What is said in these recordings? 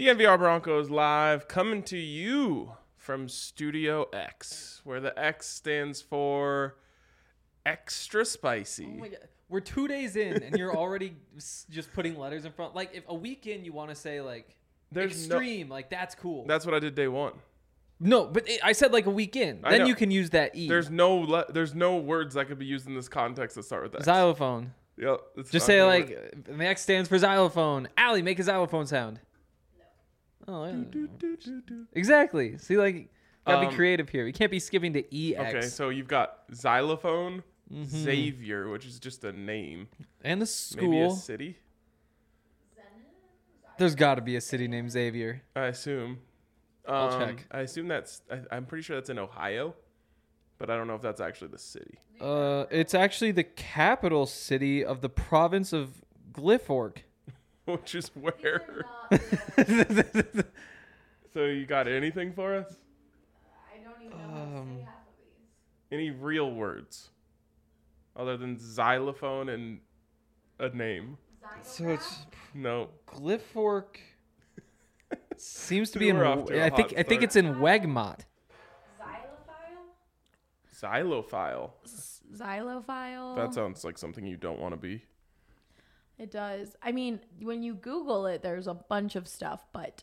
DNVR Broncos live, coming to you from Studio X, where the X stands for extra spicy. Oh my God. We're 2 days in, and you're already just putting letters in front. Like, if a week in you want to say, like, extreme, like, that's cool. That's what I did day one. No, but I said, like, a week in. Then you can use that E. There's no words that could be used in this context that start with X. Xylophone. Yep. Just say, like, the X stands for xylophone. Allie, make a xylophone sound. No. Oh, yeah. Exactly. See, like, gotta be creative here. We can't be skipping to EX. Okay, so you've got xylophone, Xavier, which is just a name. And the school. Maybe a city? There's got to be a city named Xavier. I assume. I'll check. I assume I'm pretty sure that's in Ohio, but I don't know if that's actually the city. It's actually the capital city of the province of Glyphork. Which is where? So you got anything for us? I don't even know how to say half of these. Any real words other than xylophone and a name? So it's No. Glyphork seems to be We in. were off to a I hot think it's in Wegmont. Xylophile. Xylophile. That sounds like something you don't want to be. It does. I mean, when you Google it, there's a bunch of stuff, but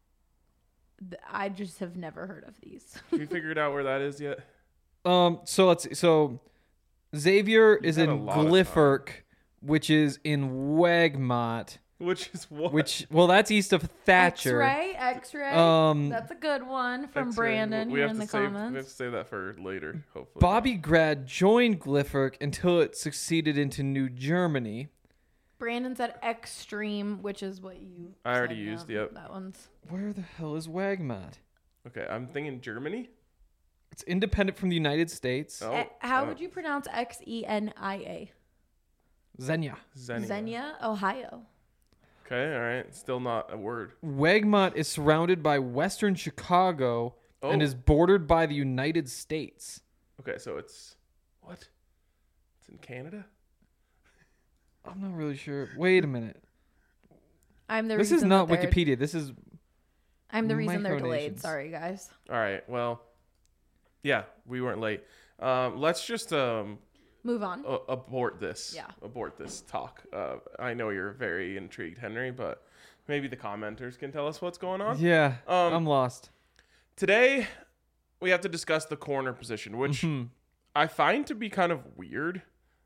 I just have never heard of these. Have you figured out where that is yet? So let's see. So Xavier is had in a lot of Glyphork, which is in Wegmont. Which is what? Well, that's east of Thatcher. X-ray. That's a good one from X-ray. Brandon We here have in to the save, comments. We have to save that for later, hopefully. Bobby Grad joined Glyphork until it succeeded into New Germany. Brandon said extreme, which is what you I already said, used, yeah. yep. That one's. Where the hell is Wegmont? Okay, I'm thinking Germany. It's independent from the United States. Oh, How would you pronounce Xenia? Xenia. Xenia. Ohio. Okay, all right. Still not a word. Wegmont is surrounded by western Chicago and is bordered by the United States. Okay, so it's what? It's in Canada? I'm not really sure. Wait a minute. This is not Wikipedia. This is. I'm the reason they're delayed. Micronations. Sorry, guys. All right. Well, yeah, we weren't late. Let's just Move on. abort this. Yeah. Abort this talk. I know you're very intrigued, Henry, but maybe the commenters can tell us what's going on. Yeah, I'm lost. Today, we have to discuss the corner position, which I find to be kind of weird.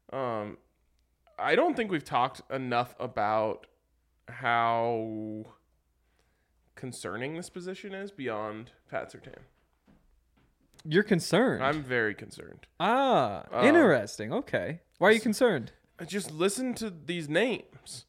I don't think we've talked enough about how concerning this position is beyond Pat Surtain. You're concerned. I'm very concerned. Interesting. Okay. Why are you concerned? Just listen to these names.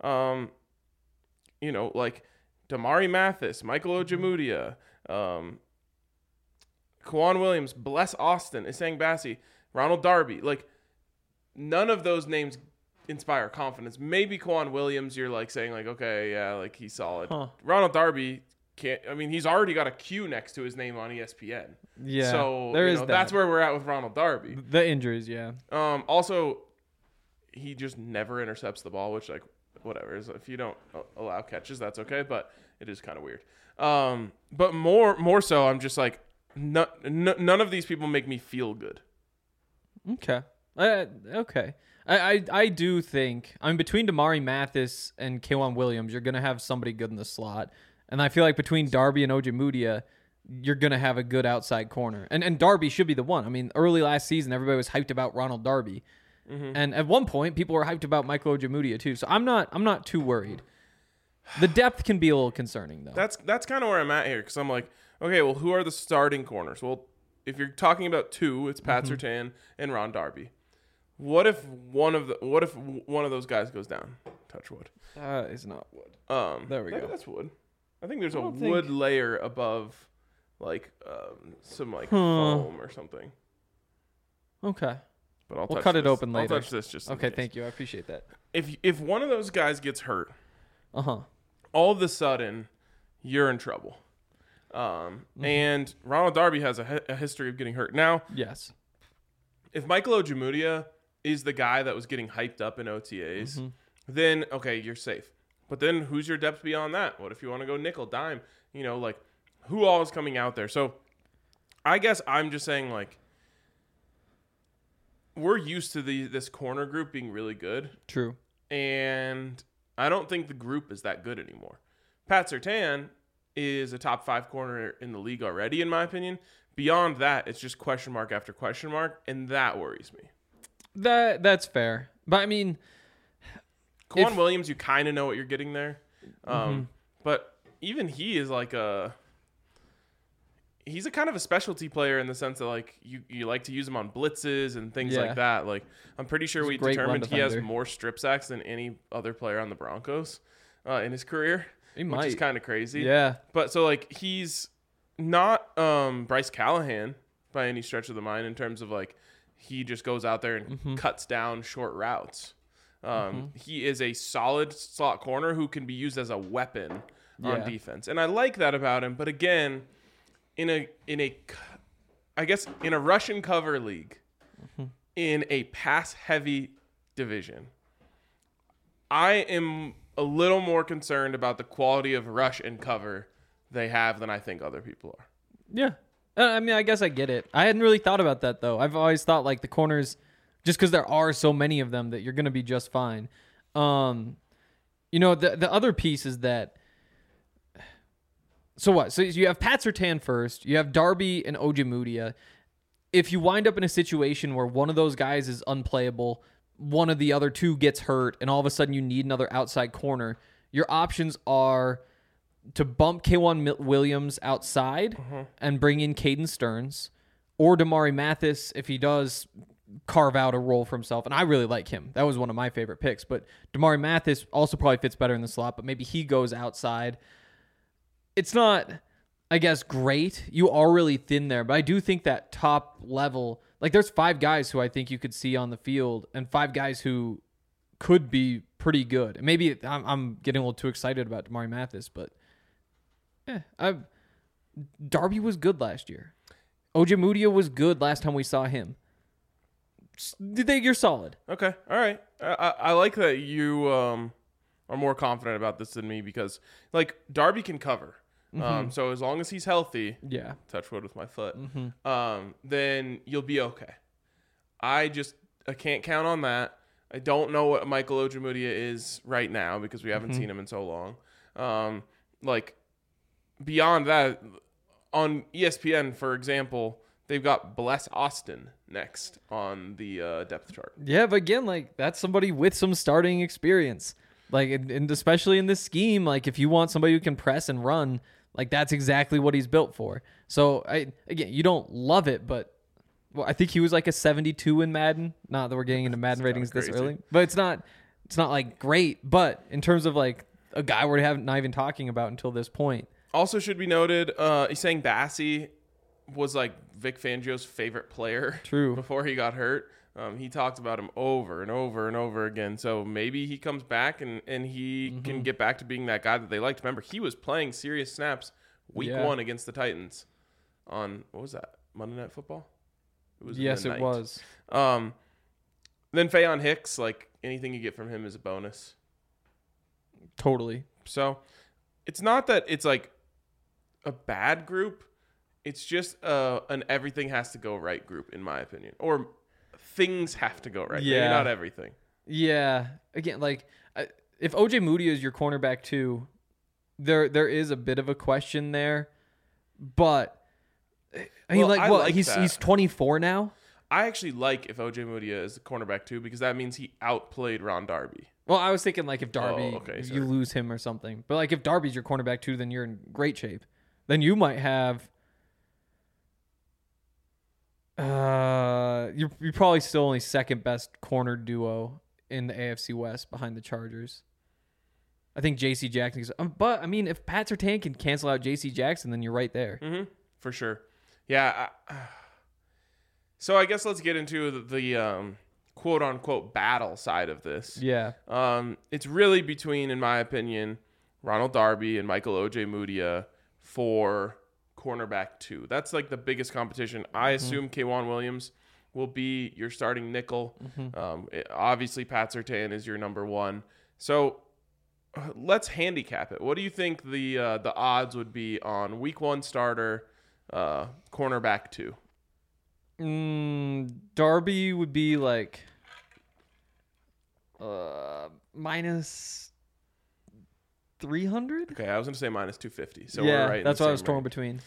Like Damari Mathis, Michael Ojemudia, Kwan Williams, Bless Austin, Isang Bassi, Ronald Darby. Like, none of those names inspire confidence. Maybe Kwan Williams, you're like saying like, okay, yeah, like he's solid. Huh. Ronald Darby can't. I mean, he's already got a Q next to his name on ESPN. Yeah. So there is that's where we're at with Ronald Darby. The injuries, yeah. Also, he just never intercepts the ball, which, like, whatever. If you don't allow catches, that's okay, but it is kind of weird. But more so, I'm just like, none of these people make me feel good. Okay. Okay. I do think, between Damari Mathis and Kwan Williams, you're going to have somebody good in the slot. And I feel like between Darby and Ojemudia, you're going to have a good outside corner. And Darby should be the one. I mean, early last season, everybody was hyped about Ronald darby. And at one point, people were hyped about Michael Ojemudia too. So I'm not too worried. The depth can be a little concerning, though. That's kind of where I'm at here, because I'm like, okay, well, who are the starting corners? Well, if you're talking about two, it's Pat Surtain and Ron Darby. What if one of those guys goes down? Touch wood. It's not wood. There we go. That's wood. I think there's a wood layer above, like, some like foam or something. Okay. But we'll cut it open later. I'll touch this just in okay. case. Thank you. I appreciate that. If one of those guys gets hurt, all of a sudden, you're in trouble. And Ronald Darby has a history of getting hurt. Now, yes, if Michael Ojemudia is the guy that was getting hyped up in OTAs, then okay, you're safe. But then who's your depth beyond that? What if you want to go nickel, dime? You know, like who all is coming out there? So I guess I'm just saying, like, we're used to this corner group being really good. True. And I don't think the group is that good anymore. Pat Surtain is a top 5 corner in the league already, in my opinion. Beyond that, it's just question mark after question mark, and that worries me. That's fair. But, I mean... Kwan Williams, you kind of know what you're getting there. But even he is like he's a kind of a specialty player in the sense that, like, you like to use him on blitzes and things like that. Like, I'm pretty sure we determined he has more strip sacks than any other player on the Broncos in his career, which is kind of crazy. Yeah. But so, like, he's not Bryce Callahan by any stretch of the mind in terms of, like, he just goes out there and cuts down short routes. He is a solid slot corner who can be used as a weapon on defense. And I like that about him. But again, in a Russian cover league, in a pass heavy division, I am a little more concerned about the quality of rush and cover they have than I think other people are. Yeah. I mean, I guess I get it. I hadn't really thought about that, though. I've always thought, like, the corners, just because there are so many of them, that you're going to be just fine. You know, the other piece is that, so what? So you have Pat Surtain first. You have Darby and Ojemudia. If you wind up in a situation where one of those guys is unplayable, one of the other two gets hurt, and all of a sudden you need another outside corner, your options are to bump K'Waun Williams outside and bring in Caden Stearns, or Damari Mathis if he does carve out a role for himself. And I really like him. That was one of my favorite picks. But Damari Mathis also probably fits better in the slot, but maybe he goes outside. It's not, I guess, great. You are really thin there, but I do think that top level, like, there's 5 guys who I think you could see on the field and 5 guys who could be pretty good. And maybe I'm getting a little too excited about Damari Mathis, but Darby was good last year. Ojemudia was good last time we saw him. You're solid. Okay. All right. I like that you are more confident about this than me because, like, Darby can cover. So as long as he's healthy, touch wood with my foot, then you'll be okay. I can't count on that. I don't know what Michael Ojemudia is right now because we haven't seen him in so long. Like, beyond that, on ESPN, for example, they've got Bless Austin next on the depth chart. Yeah, but again, like, that's somebody with some starting experience. Like, and especially in this scheme, like, if you want somebody who can press and run, like, that's exactly what he's built for. So, again, you don't love it, but I think he was like a 72 in Madden. Not that we're getting into Madden ratings this early, but it's not like great. But in terms of, like, a guy we're not even talking about until this point. Also should be noted, he's saying Bassey was, like, Vic Fangio's favorite player. True. Before he got hurt. He talked about him over and over and over again. So maybe he comes back and he can get back to being that guy that they liked. Remember, he was playing serious snaps week 1 against the Titans on, what was that, Monday Night Football? It was. Yes, it was. Then Faion Hicks, like, anything you get from him is a bonus. Totally. So it's not that it's, like, a bad group. It's just an everything has to go right group, in my opinion. Or things have to go right. Yeah. Maybe not everything. Yeah. Again, like, if Ojemudia is your cornerback too, there is a bit of a question there. But I mean, he's 24 now. I actually like if Ojemudia is the cornerback too, because that means he outplayed Ron Darby. Well, I was thinking, like, if Darby, if you lose him or something. But, like, if Darby's your cornerback too, then you're in great shape. Then you might have. You're probably still only second best corner duo in the AFC West behind the Chargers. I think J.C. Jackson. But I mean, if Pat Surtain can cancel out J.C. Jackson, then you're right there. For sure. Yeah. So I guess let's get into the quote unquote battle side of this. Yeah. It's really between, in my opinion, Ronald Darby and Michael Ojemudia for cornerback 2. That's, like, the biggest competition. I assume K'Waun Williams will be your starting nickel. Obviously, Pat Surtain is your number 1. So let's handicap it. What do you think the odds would be on week 1 starter, cornerback 2? Darby would be like minus 300. Okay, I was gonna say minus 250. So yeah, we're right. that's what I was torn between.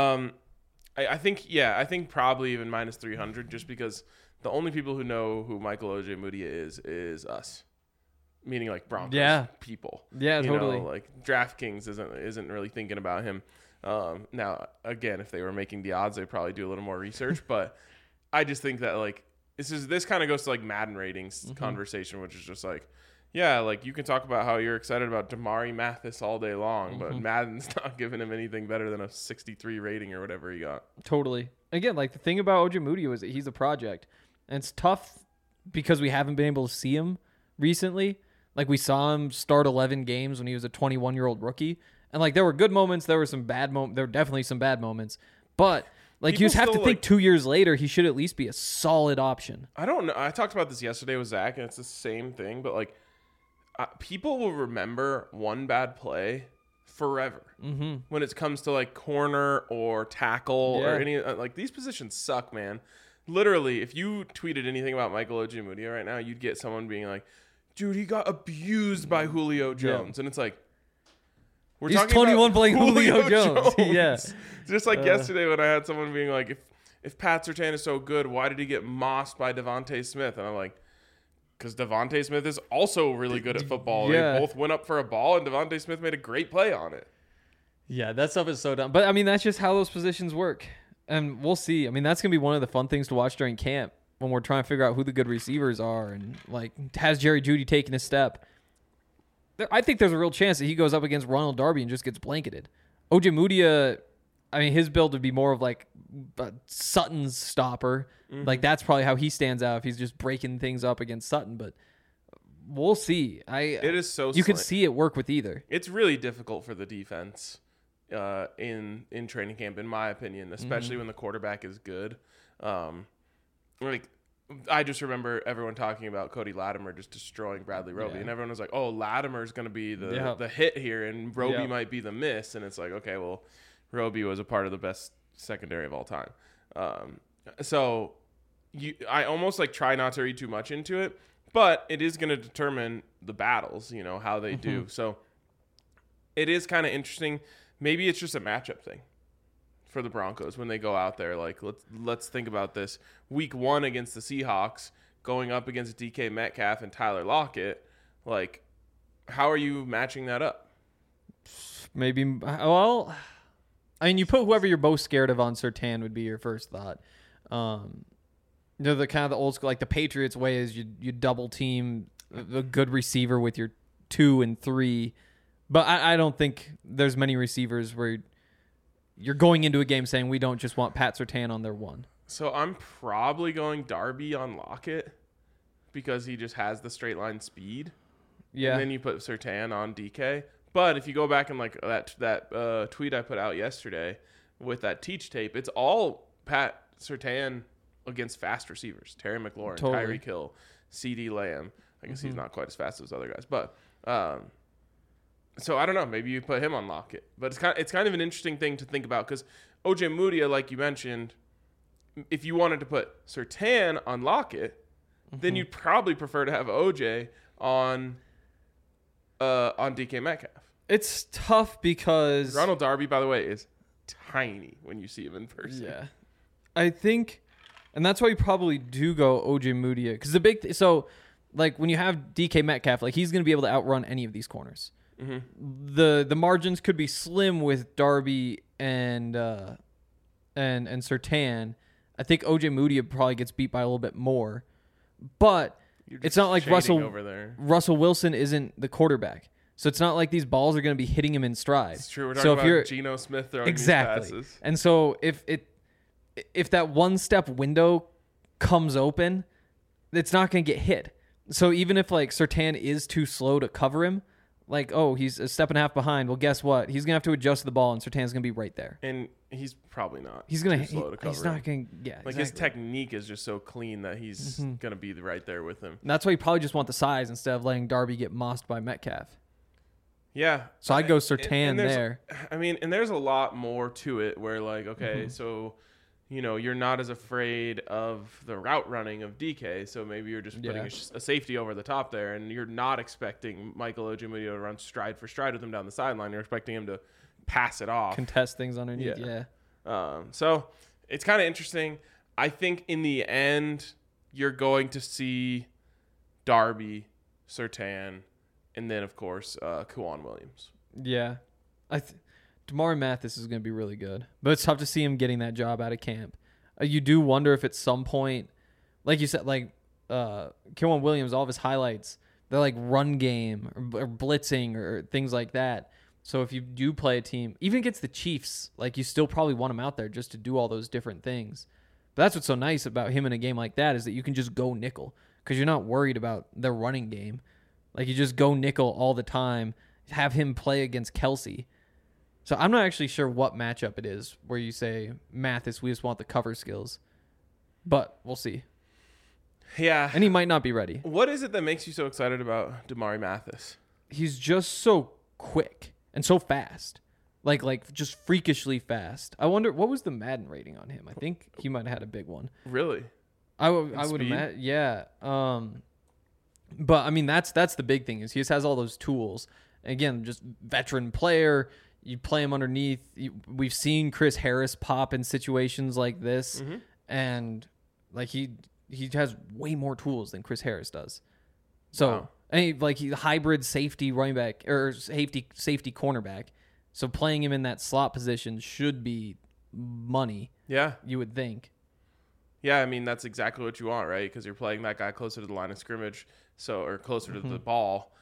I think probably even minus 300, just because the only people who know who Michael Ojemudia is us, meaning like Broncos people. Yeah, totally. Like DraftKings isn't really thinking about him. Now again, if they were making the odds, they'd probably do a little more research. But I just think that like this kind of goes to like Madden ratings conversation, which is just like, yeah, like you can talk about how you're excited about Damari Mathis all day long, but Madden's not giving him anything better than a 63 rating or whatever he got. Totally. Again, like the thing about Ojemudia is that he's a project, and it's tough because we haven't been able to see him recently. Like we saw him start 11 games when he was a 21-year-old rookie, and like there were good moments, there were some bad moments, there were definitely some bad moments, but like People you just have to still, think like- 2 years later he should at least be a solid option. I don't know. I talked about this yesterday with Zach, and it's the same thing, but like people will remember one bad play forever when it comes to like corner or tackle or any like these positions suck, man. Literally, if you tweeted anything about Michael Ojemudia right now, you'd get someone being like, dude, he got abused by Julio Jones. And it's like, He's 21 playing Julio Jones. Yeah. Just like yesterday when I had someone being like, if Pat Surtain is so good, why did he get mossed by Devontae Smith? And I'm like, because Devontae Smith is also really good at football. Yeah. They both went up for a ball, and Devontae Smith made a great play on it. Yeah, that stuff is so dumb. But I mean, that's just how those positions work. And we'll see. I mean, that's going to be one of the fun things to watch during camp when we're trying to figure out who the good receivers are. And like, has Jerry Jeudy taken a step? I think there's a real chance that he goes up against Ronald Darby and just gets blanketed. Ojemudia, I mean, his build would be more of like Sutton's stopper. Like that's probably how he stands out if he's just breaking things up against Sutton. But we'll see. It is so you can slim. see it work with either. It's really difficult for the defense in training camp, in my opinion, especially when the quarterback is good. Like I just remember everyone talking about Cody Latimer just destroying Bradley Roby, and everyone was like, "Oh, Latimer's going to be the hit here, and Roby might be the miss." And it's like, okay, well, Roby was a part of the best secondary of all time. So I almost like try not to read too much into it, but it is going to determine the battles, how they do. So it is kind of interesting. Maybe it's just a matchup thing for the Broncos when they go out there. Like let's think about this. Week 1 against the Seahawks, going up against DK Metcalf and Tyler Lockett. Like, how are you matching that up? Maybe. Well, I mean, you put whoever you're most scared of on Surtain would be your first thought. The kind of the old school, like the Patriots way is you double team a good receiver with your 2 and 3. But I don't think there's many receivers where you're going into a game saying we don't just want Pat Surtain on their 1. So I'm probably going Darby on Lockett because he just has the straight line speed. Yeah. And then you put Surtain on DK. But if you go back and like that tweet I put out yesterday with that teach tape, it's all Pat Surtain against fast receivers. Terry McLaurin, Totally. Tyreek Hill, CD Lamb. I guess he's not quite as fast as those other guys. But so I don't know. Maybe you put him on Lockett. But it's kind of an interesting thing to think about because Ojemudia, like you mentioned, if you wanted to put Surtain on Lockett, then you'd probably prefer to have OJ on DK Metcalf. It's tough because Ronald Darby, by the way, is tiny when you see him in person. Yeah. I think, and that's why you probably do go Ojemudia because the big so like when you have DK Metcalf, like he's going to be able to outrun any of these corners. The margins could be slim with Darby and Surtain. I think Ojemudia probably gets beat by a little bit more, but it's not like Russell Wilson isn't the quarterback, so it's not like these balls are going to be hitting him in stride. It's true. We're talking about Geno Smith throwing these passes. And so if that one step window comes open, it's not going to get hit. So even if like Surtain is too slow to cover him, like, oh, he's a step and a half behind. Well, guess what? He's gonna have to adjust the ball, and Surtain's gonna be right there. And he's probably not. He's gonna. too slow to cover he's not him. gonna. Yeah. Like his technique is just so clean that he's gonna be right there with him. And that's why you probably just want the size instead of letting Darby get mossed by Metcalf. Yeah. So I'd go And Surtain there's- there. I mean, and there's a lot more to it where like, okay, so, you know, you're not as afraid of the route running of DK. So maybe you're just putting Yeah. a safety over the top there and you're not expecting Michael Ojemudia to run stride for stride with him down the sideline. You're expecting him to pass it off. Contest things underneath. Yeah. Yeah. So it's kind of interesting. I think in the end, you're going to see Darby, Surtain, and then, of course, Kwan Williams. Yeah. Damari Mathis is going to be really good, but it's tough to see him getting that job out of camp. You do wonder if at some point, like you said, like Kwan Williams, all of his highlights, they're like run game or blitzing or things like that. So if you do play a team, even against the Chiefs, like you still probably want him out there just to do all those different things. But that's what's so nice about him in a game like that is that you can just go nickel because you're not worried about their running game. Like you just go nickel all the time, have him play against Kelsey. So I'm not actually sure what matchup it is where you say, Mathis, we just want the cover skills. But we'll see. Yeah. And he might not be ready. What is it that makes you so excited about Damari Mathis? He's just so quick and so fast. Like just freakishly fast. I wonder, what was the Madden rating on him? I think he might have had a big one. Really? I would speed? imagine, yeah. But I mean, that's the big thing is he just has all those tools. Again, just veteran player. You play him underneath. We've seen Chris Harris pop in situations like this, and like he has way more tools than Chris Harris does. So, Wow. he's a hybrid safety running back or safety cornerback. So playing him in that slot position should be money. Yeah. You would think. Yeah, I mean, that's exactly what you want, right? Because you're playing that guy closer to the line of scrimmage, or closer to the ball.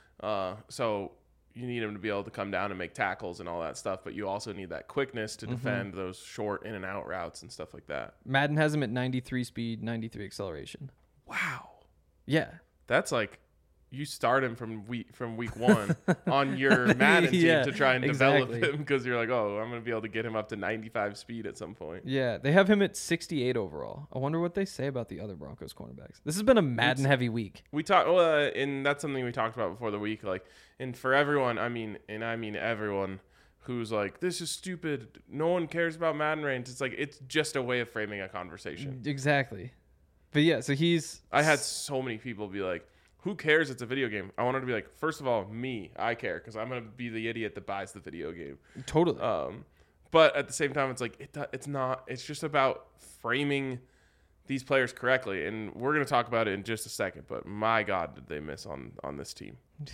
So you need him to be able to come down and make tackles and all that stuff, but you also need that quickness to defend those short in and out routes and stuff like that. Madden has him at 93 speed, 93 acceleration. Wow. Yeah. That's like you start him from week one on your Madden team Yeah, to try and develop exactly. him because you're like, oh, I'm going to be able to get him up to 95 speed at some point. Yeah, they have him at 68 overall. I wonder what they say about the other Broncos cornerbacks. This has been a Madden heavy week. We talked, and that's something we talked about before the week. Like, and for everyone, I mean everyone who's like, this is stupid. No one cares about Madden range. It's like it's just a way of framing a conversation. Exactly. But yeah, so I had so many people be like, who cares? It's a video game. I wanted to be like, first of all, I care because I'm gonna be the idiot that buys the video game. totally. But at the same time, it's like it's not. It's just about framing these players correctly, and we're gonna talk about it in just a second. But my God, did they miss on this team?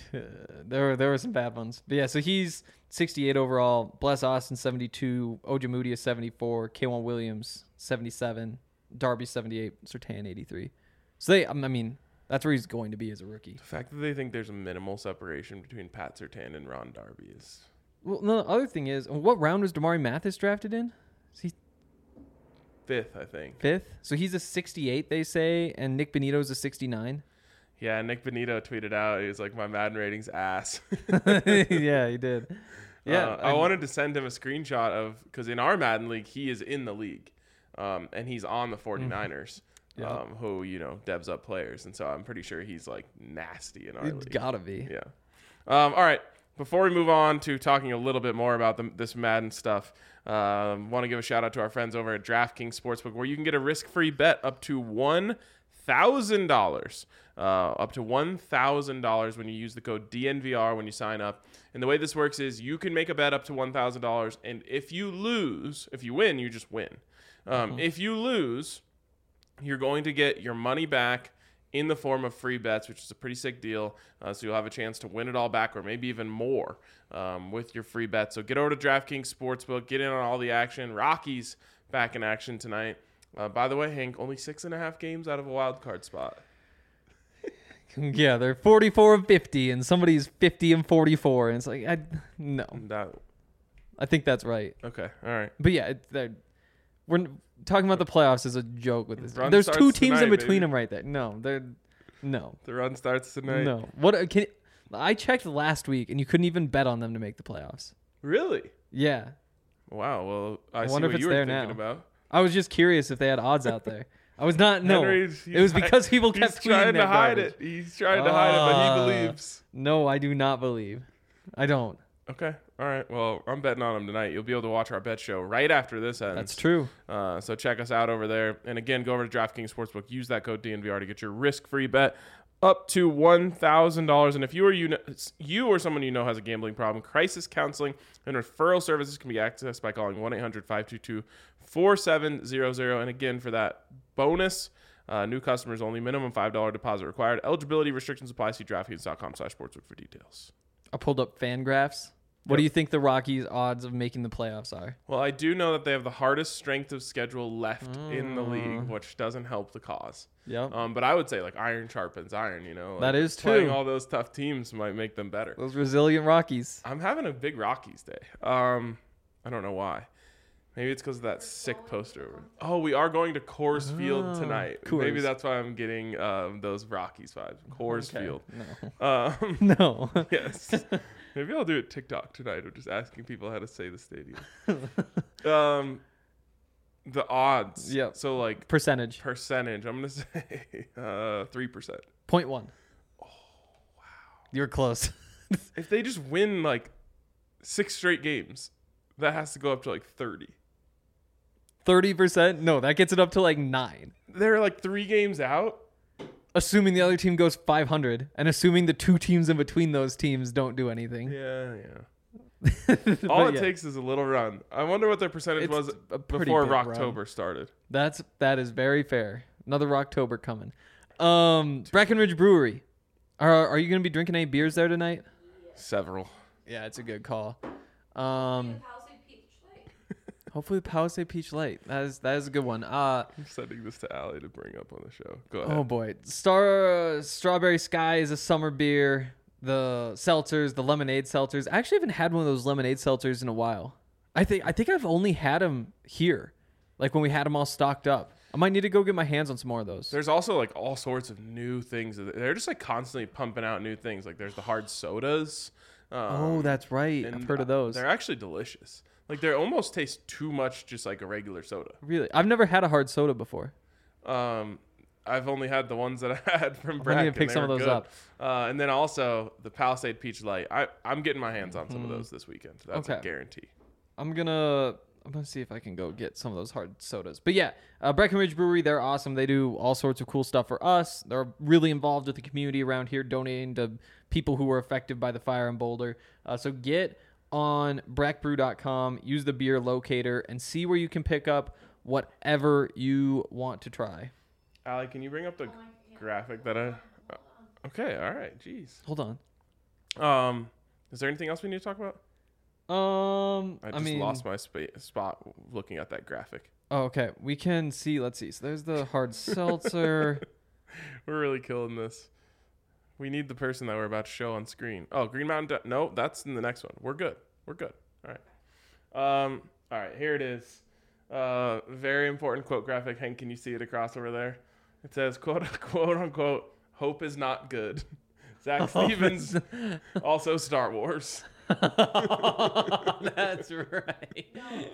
There were some bad ones. But yeah, so he's 68 overall. Bless Austin 72, Ojemudia 74, Kwan Williams 77, Darby 78, Surtain 83. So I mean, that's where he's going to be as a rookie. The fact that they think there's a minimal separation between Pat Surtain and Ron Darby is Well, no, the other thing is, what round was Damari Mathis drafted in? Is he fifth, I think. fifth? So he's a 68, they say, and Nick Benito's a 69. Yeah, Nick Benito tweeted out, he was like, my Madden rating's ass. Yeah, he did. Yeah, I wanted to send him a screenshot of, because in our Madden league, he is in the league, and he's on the 49ers, who, debs up players. And so I'm pretty sure he's like nasty in our It's league. gotta be. Yeah. All right. Before we move on to talking a little bit more about this Madden stuff, want to give a shout out to our friends over at DraftKings Sportsbook, where you can get a risk-free bet up to $1,000. Up to $1,000 when you use the code DNVR when you sign up. And the way this works is you can make a bet up to $1,000, and if you win, you just win. If you lose, you're going to get your money back in the form of free bets, which is a pretty sick deal. So you'll have a chance to win it all back or maybe even more with your free bets. So get over to DraftKings Sportsbook, get in on all the action. Rockies back in action tonight. By the way, Hank, only 6.5 games out of a wild card spot. Yeah, they're 44 of 50, and somebody's 50 and 44, and it's like, no. I think that's right. Okay, all right. But yeah, we're talking about the playoffs as a joke with this. Run There's two starts teams in tonight, between baby. them right there. No. The run starts tonight. No. I checked last week, and you couldn't even bet on them to make the playoffs. Really? Yeah. Wow. Well, I see wonder what if you it's were there thinking now. about. I was just curious if they had odds out there. I was not. No, Henry's- it was because people kept He's trying tweeting to that hide garbage. it. He's trying to hide it, but he believes. No, I do not believe. I don't. Okay. All right. Well, I'm betting on them tonight. You'll be able to watch our bet show right after this ends. That's true. So check us out over there. And again, go over to DraftKings Sportsbook. Use that code DNVR to get your risk-free bet up to $1,000. And if you or someone you know has a gambling problem, crisis counseling and referral services can be accessed by calling 1-800-522-4700. And again, for that bonus, new customers only, minimum $5 deposit required. Eligibility restrictions apply. See DraftKings.com/sportsbook for details. I pulled up FanGraphs. What do you think the Rockies' odds of making the playoffs are? Well, I do know that they have the hardest strength of schedule left in the league, which doesn't help the cause. Yep. But I would say like iron sharpens iron, Like, that is playing true. all those tough teams might make them better. Those resilient Rockies. I'm having a big Rockies day. I don't know why. Maybe it's because of that sick poster. Oh, we are going to Coors Field tonight. Coors. Maybe that's why I'm getting those Rockies vibes. Coors Field. No. No. Yes. Maybe I'll do it TikTok tonight. I'm just asking people how to say the stadium. The odds. Yep. So like Percentage. percentage. I'm gonna say 3%. 0.1. Oh wow. You're close. If they just win like 6 straight games, that has to go up to like 30. 30%? No, that gets it up to like 9. They're like 3 games out. Assuming the other team goes 500 and assuming the 2 teams in between those teams don't do anything. Yeah. But All it yeah, takes is a little run. I wonder what their percentage It's was a pretty before big Rocktober started. that is very fair. Another Rocktober coming. Breckenridge Brewery. Are you going to be drinking any beers there tonight? Several. Yeah, it's a good call. Hopefully Palisade Peach Light. That is a good one. I'm sending this to Allie to bring up on the show. Go ahead. Oh boy, Strawberry Sky is a summer beer. The seltzers, the lemonade seltzers. I actually haven't had one of those lemonade seltzers in a while. I think I've only had them here, like when we had them all stocked up. I might need to go get my hands on some more of those. There's also like all sorts of new things. They're just like constantly pumping out new things. Like there's the hard sodas. Oh, that's right. and I've heard of those. They're actually delicious. Like they almost taste too much just like a regular soda. Really, I've never had a hard soda before. I've only had the ones that I had from I Brack. need to pick some of those up. And then also the Palisade Peach Light. I'm getting my hands on some of those this weekend. That's a Okay. guarantee. I'm gonna see if I can go get some of those hard sodas. But yeah, Breckenridge Brewery, they're awesome. They do all sorts of cool stuff for us. They're really involved with the community around here, donating to people who were affected by the fire in Boulder. So get on brackbrew.com, use the beer locator, and see where you can pick up whatever you want to try. Allie, can you bring up the graphic that I... Okay, all right. Jeez. Hold on. Is there anything else we need to talk about? I just lost my spot looking at that graphic. Oh, okay. We can see. Let's see. So there's the hard seltzer. We're really killing this. We need the person that we're about to show on screen. Oh, Green Mountain. No, that's in the next one. We're good. All right. All right. Here it is. Very important quote graphic. Hank, can you see it across over there? It says, quote unquote, hope is not good. Zach Stevens, also Star Wars. That's right.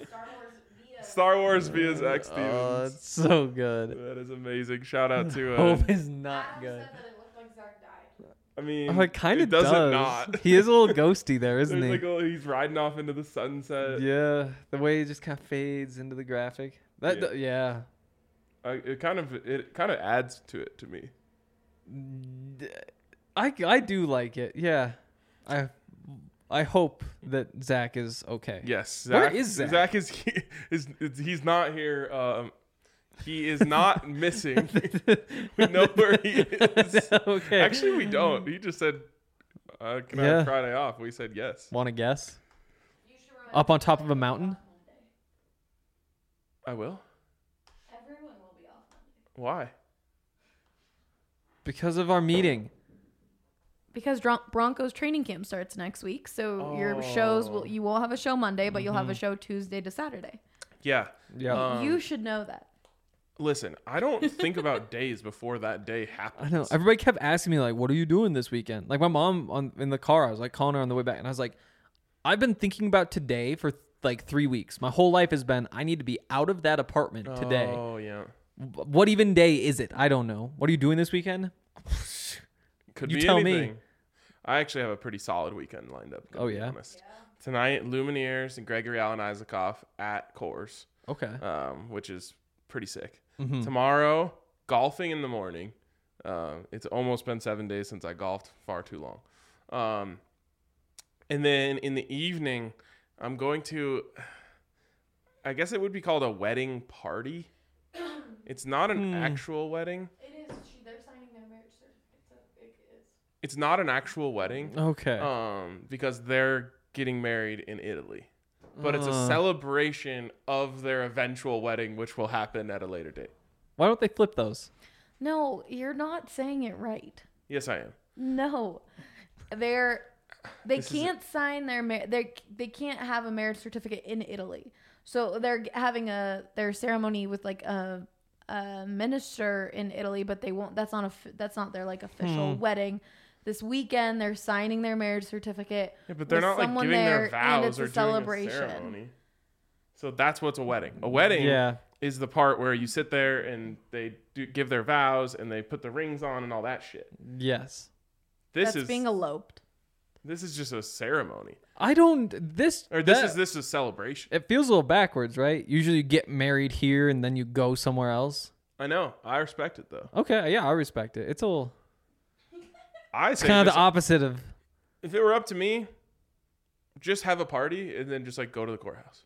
Star Wars via Zach Stevens. Oh, it's so good. That is amazing. Shout out to Hope is not good. I mean, Oh, it kind of doesn't does. not. He is a little ghosty there, isn't There's he? like he's riding off into the sunset. Yeah, the way he just kind of fades into the graphic. Yeah. It kind of adds to it to me. I do like it. Yeah. I hope that Zach is okay. Yes. Where is Zach? Zach he's not here. He is not missing. We know where he is. Okay. Actually, we don't. He just said, "Can I have Friday off?" We said yes. Want to guess? Up on top of a mountain? I will. Everyone will be off Monday. Why? Because of our meeting. Because Broncos training camp starts next week, so your shows you will have a show Monday, but you'll have a show Tuesday to Saturday. Yeah. Yeah. You should know that. Listen, I don't think about days before that day happens. I know. Everybody kept asking me, like, what are you doing this weekend? Like, my mom in the car, I was like calling her on the way back, and I was like, I've been thinking about today for like 3 weeks. My whole life has been, I need to be out of that apartment today. Oh, yeah. What even day is it? I don't know. What are you doing this weekend? Could You be tell anything. me. I actually have a pretty solid weekend lined up. Oh, yeah? Honest. Tonight, Lumineers and Gregory Allen Isakov at Coors, Okay. which is pretty sick. Mhm. Tomorrow, golfing in the morning. It's almost been 7 days since I golfed. Far too long. And then in the evening, I'm going to, I guess it would be called a wedding party. It's not an actual wedding. It is. They're signing their marriage certificates. It is. It's not an actual wedding. Okay. Because they're getting married in Italy. But it's a celebration of their eventual wedding, which will happen at a later date. Why don't they flip those? No, you're not saying it right. Yes, I am. No, they can't sign they can't have a marriage certificate in Italy. So they're having their ceremony with like a minister in Italy, but they won't. That's not their like official wedding. This weekend they're signing their marriage certificate. Yeah, but they're with not like someone giving there, their vows and it's or a doing celebration. a ceremony. So that's what's a wedding. A wedding Yeah. is the part where you sit there and they give their vows and they put the rings on and all that shit. Yes. This That's being eloped. This is just a ceremony. I don't. This is celebration. It feels a little backwards, right? Usually you get married here and then you go somewhere else. I know. I respect it though. Okay, yeah, I respect it. It's a little. I It's say kind of just- the opposite of. if it were up to me, just have a party and then just like go to the courthouse.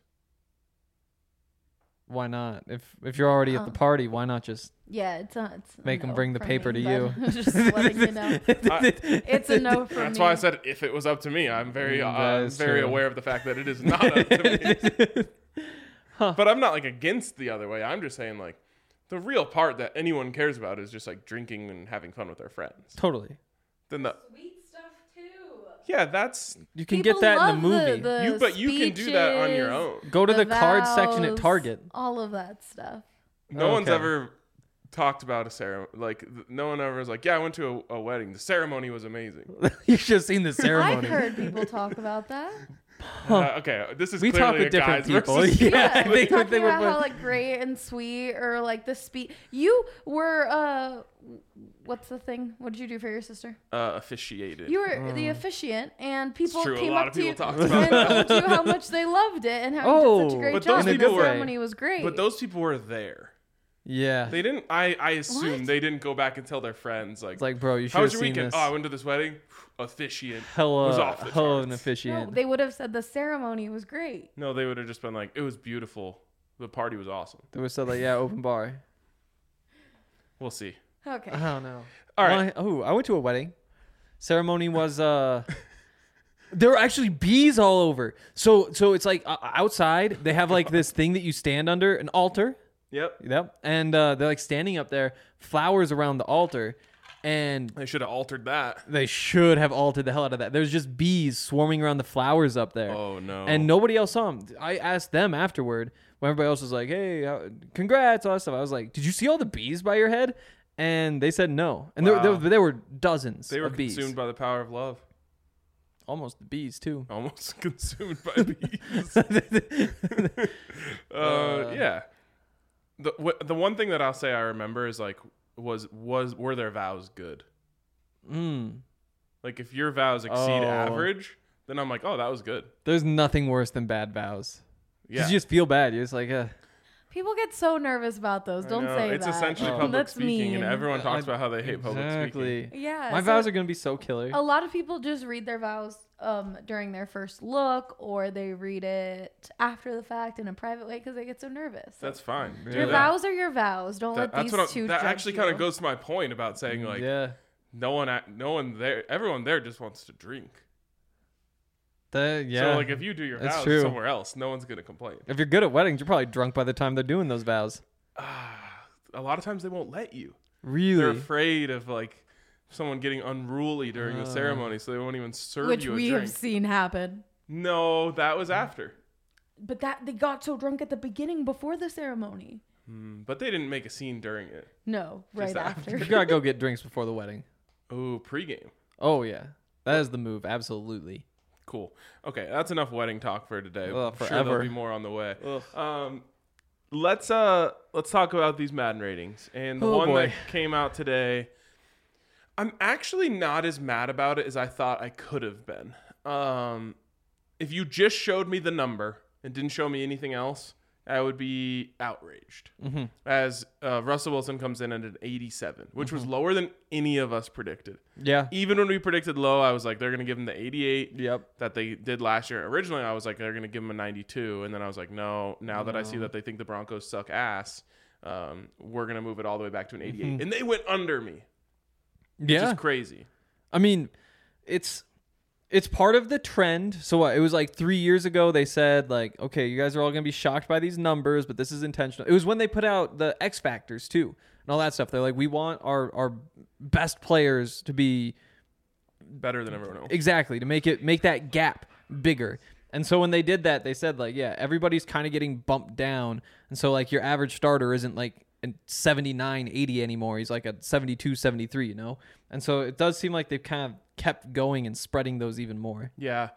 Why not? If you're already at the party, why not just Yeah, it's a make them no bring the for paper me, to but you? just letting you know. It's a no for me. That's why I said if it was up to me. I'm very That is very true. aware of the fact that it is not up to me. But I'm not like against the other way. I'm just saying like the real part that anyone cares about is just like drinking and having fun with their friends. Totally. Then the Sweet stuff too. yeah, that's You can People get that in love the movie. the you can do that on your speeches, own. Go to the card section at vows, Target. All of that stuff. No one's Okay. ever talked about a ceremony. Like no one ever was like, yeah, I went to a wedding. The ceremony was amazing. You should have seen the I've ceremony. heard people talk about that. Okay, this is We clearly talk with a different guys people. versus Yeah, Yeah, I think talking they would about how both- like great and sweet, or like the speech. You were what's the thing? What did you do for your sister? officiated. You were the officiant, and people true, a came lot up of to you people and talked about that. told you how much they loved it and how you did such a great But job. those and people the were- ceremony was great. But those people were there. Yeah. They didn't. I assume What? they didn't go back and tell their friends like, It's like, bro, you should how have was your seen weekend? this. Oh, I went to this wedding. Officiant. Hella, was off the hella an charts. officiant. no, they would have said the ceremony was great. No, they would have just been like, it was beautiful. The party was awesome. They were said like, yeah, open bar. We'll see. Okay. I don't know. All right. I went to a wedding. Ceremony was there were actually bees all over. So it's like outside they have like this thing that you stand under, an altar. Yep. And they're like standing up there, flowers around the altar, and They should have altered that. they should have altered the hell out of that. There's just bees swarming around the flowers up there. Oh no. And nobody else saw them. I asked them afterward when everybody else was like, hey, congrats, all that stuff. I was like, did you see all the bees by your head? And they said no. And Wow. there were dozens they were of bees. consumed by the power of love. Almost the bees, too. Almost consumed by bees. Yeah. The one thing that I'll say I remember is like were their vows good? Like if your vows exceed Oh. average, then I'm like, oh, that was good. There's nothing worse than bad vows. Yeah. You just feel bad. You're just like, People get so nervous about those. I Don't know. say It's that. essentially Oh. public That's speaking, mean. and everyone talks about how they hate public exactly. speaking. Yeah. My so vows are going to be so killer. a lot of people just read their vows during their first look, or they read it after the fact in a private way because they get so nervous. That's fine. Yeah. Do Your that. vows are your vows. Don't let That's these what two that judge actually you. kind of goes to my point about saying like yeah. no one there, everyone there just wants to drink. Yeah. So like if you do your That's vows true. somewhere else, no one's gonna complain. If you're good at weddings, you're probably drunk by the time they're doing those vows. A lot of times they won't let you. Really? They're afraid of like someone getting unruly during the ceremony, so they won't even serve Which you a we drink. have seen happen. No, that was after. But that they got so drunk at the beginning before the ceremony. But they didn't make a scene during it. No, right Just after. You gotta go get drinks before the wedding. Oh, pregame. Oh, yeah. That is the move. Absolutely. Cool. Okay, that's enough wedding talk for today. Ugh, I'm sure forever. there'll be more on the way. Let's talk about these Madden ratings. And the Oh, one boy. that came out today, I'm actually not as mad about it as I thought I could have been. If you just showed me the number and didn't show me anything else, I would be outraged. As Russell Wilson comes in at an 87, which was lower than any of us predicted. Yeah. Even when we predicted low, I was like, they're going to give him the 88 Yep. that they did last year. Originally, I was like, they're going to give him a 92. And then I was like, no, now that I see that they think the Broncos suck ass, we're going to move it all the way back to an 88. And they went under me. Yeah. Which is crazy. I mean, it's part of the trend. So what? It was like 3 years ago they said like, okay, you guys are all going to be shocked by these numbers, but this is intentional. It was when they put out the X Factors too and all that stuff. They're like, we want our best players to be Better than everyone else. exactly to make that gap bigger. And so when they did that, they said like, yeah, everybody's kind of getting bumped down. And so like your average starter isn't like a 79, 80 anymore. He's like a 72, 73, you know? And so it does seem like they've kind of kept going and spreading those even more. Yeah.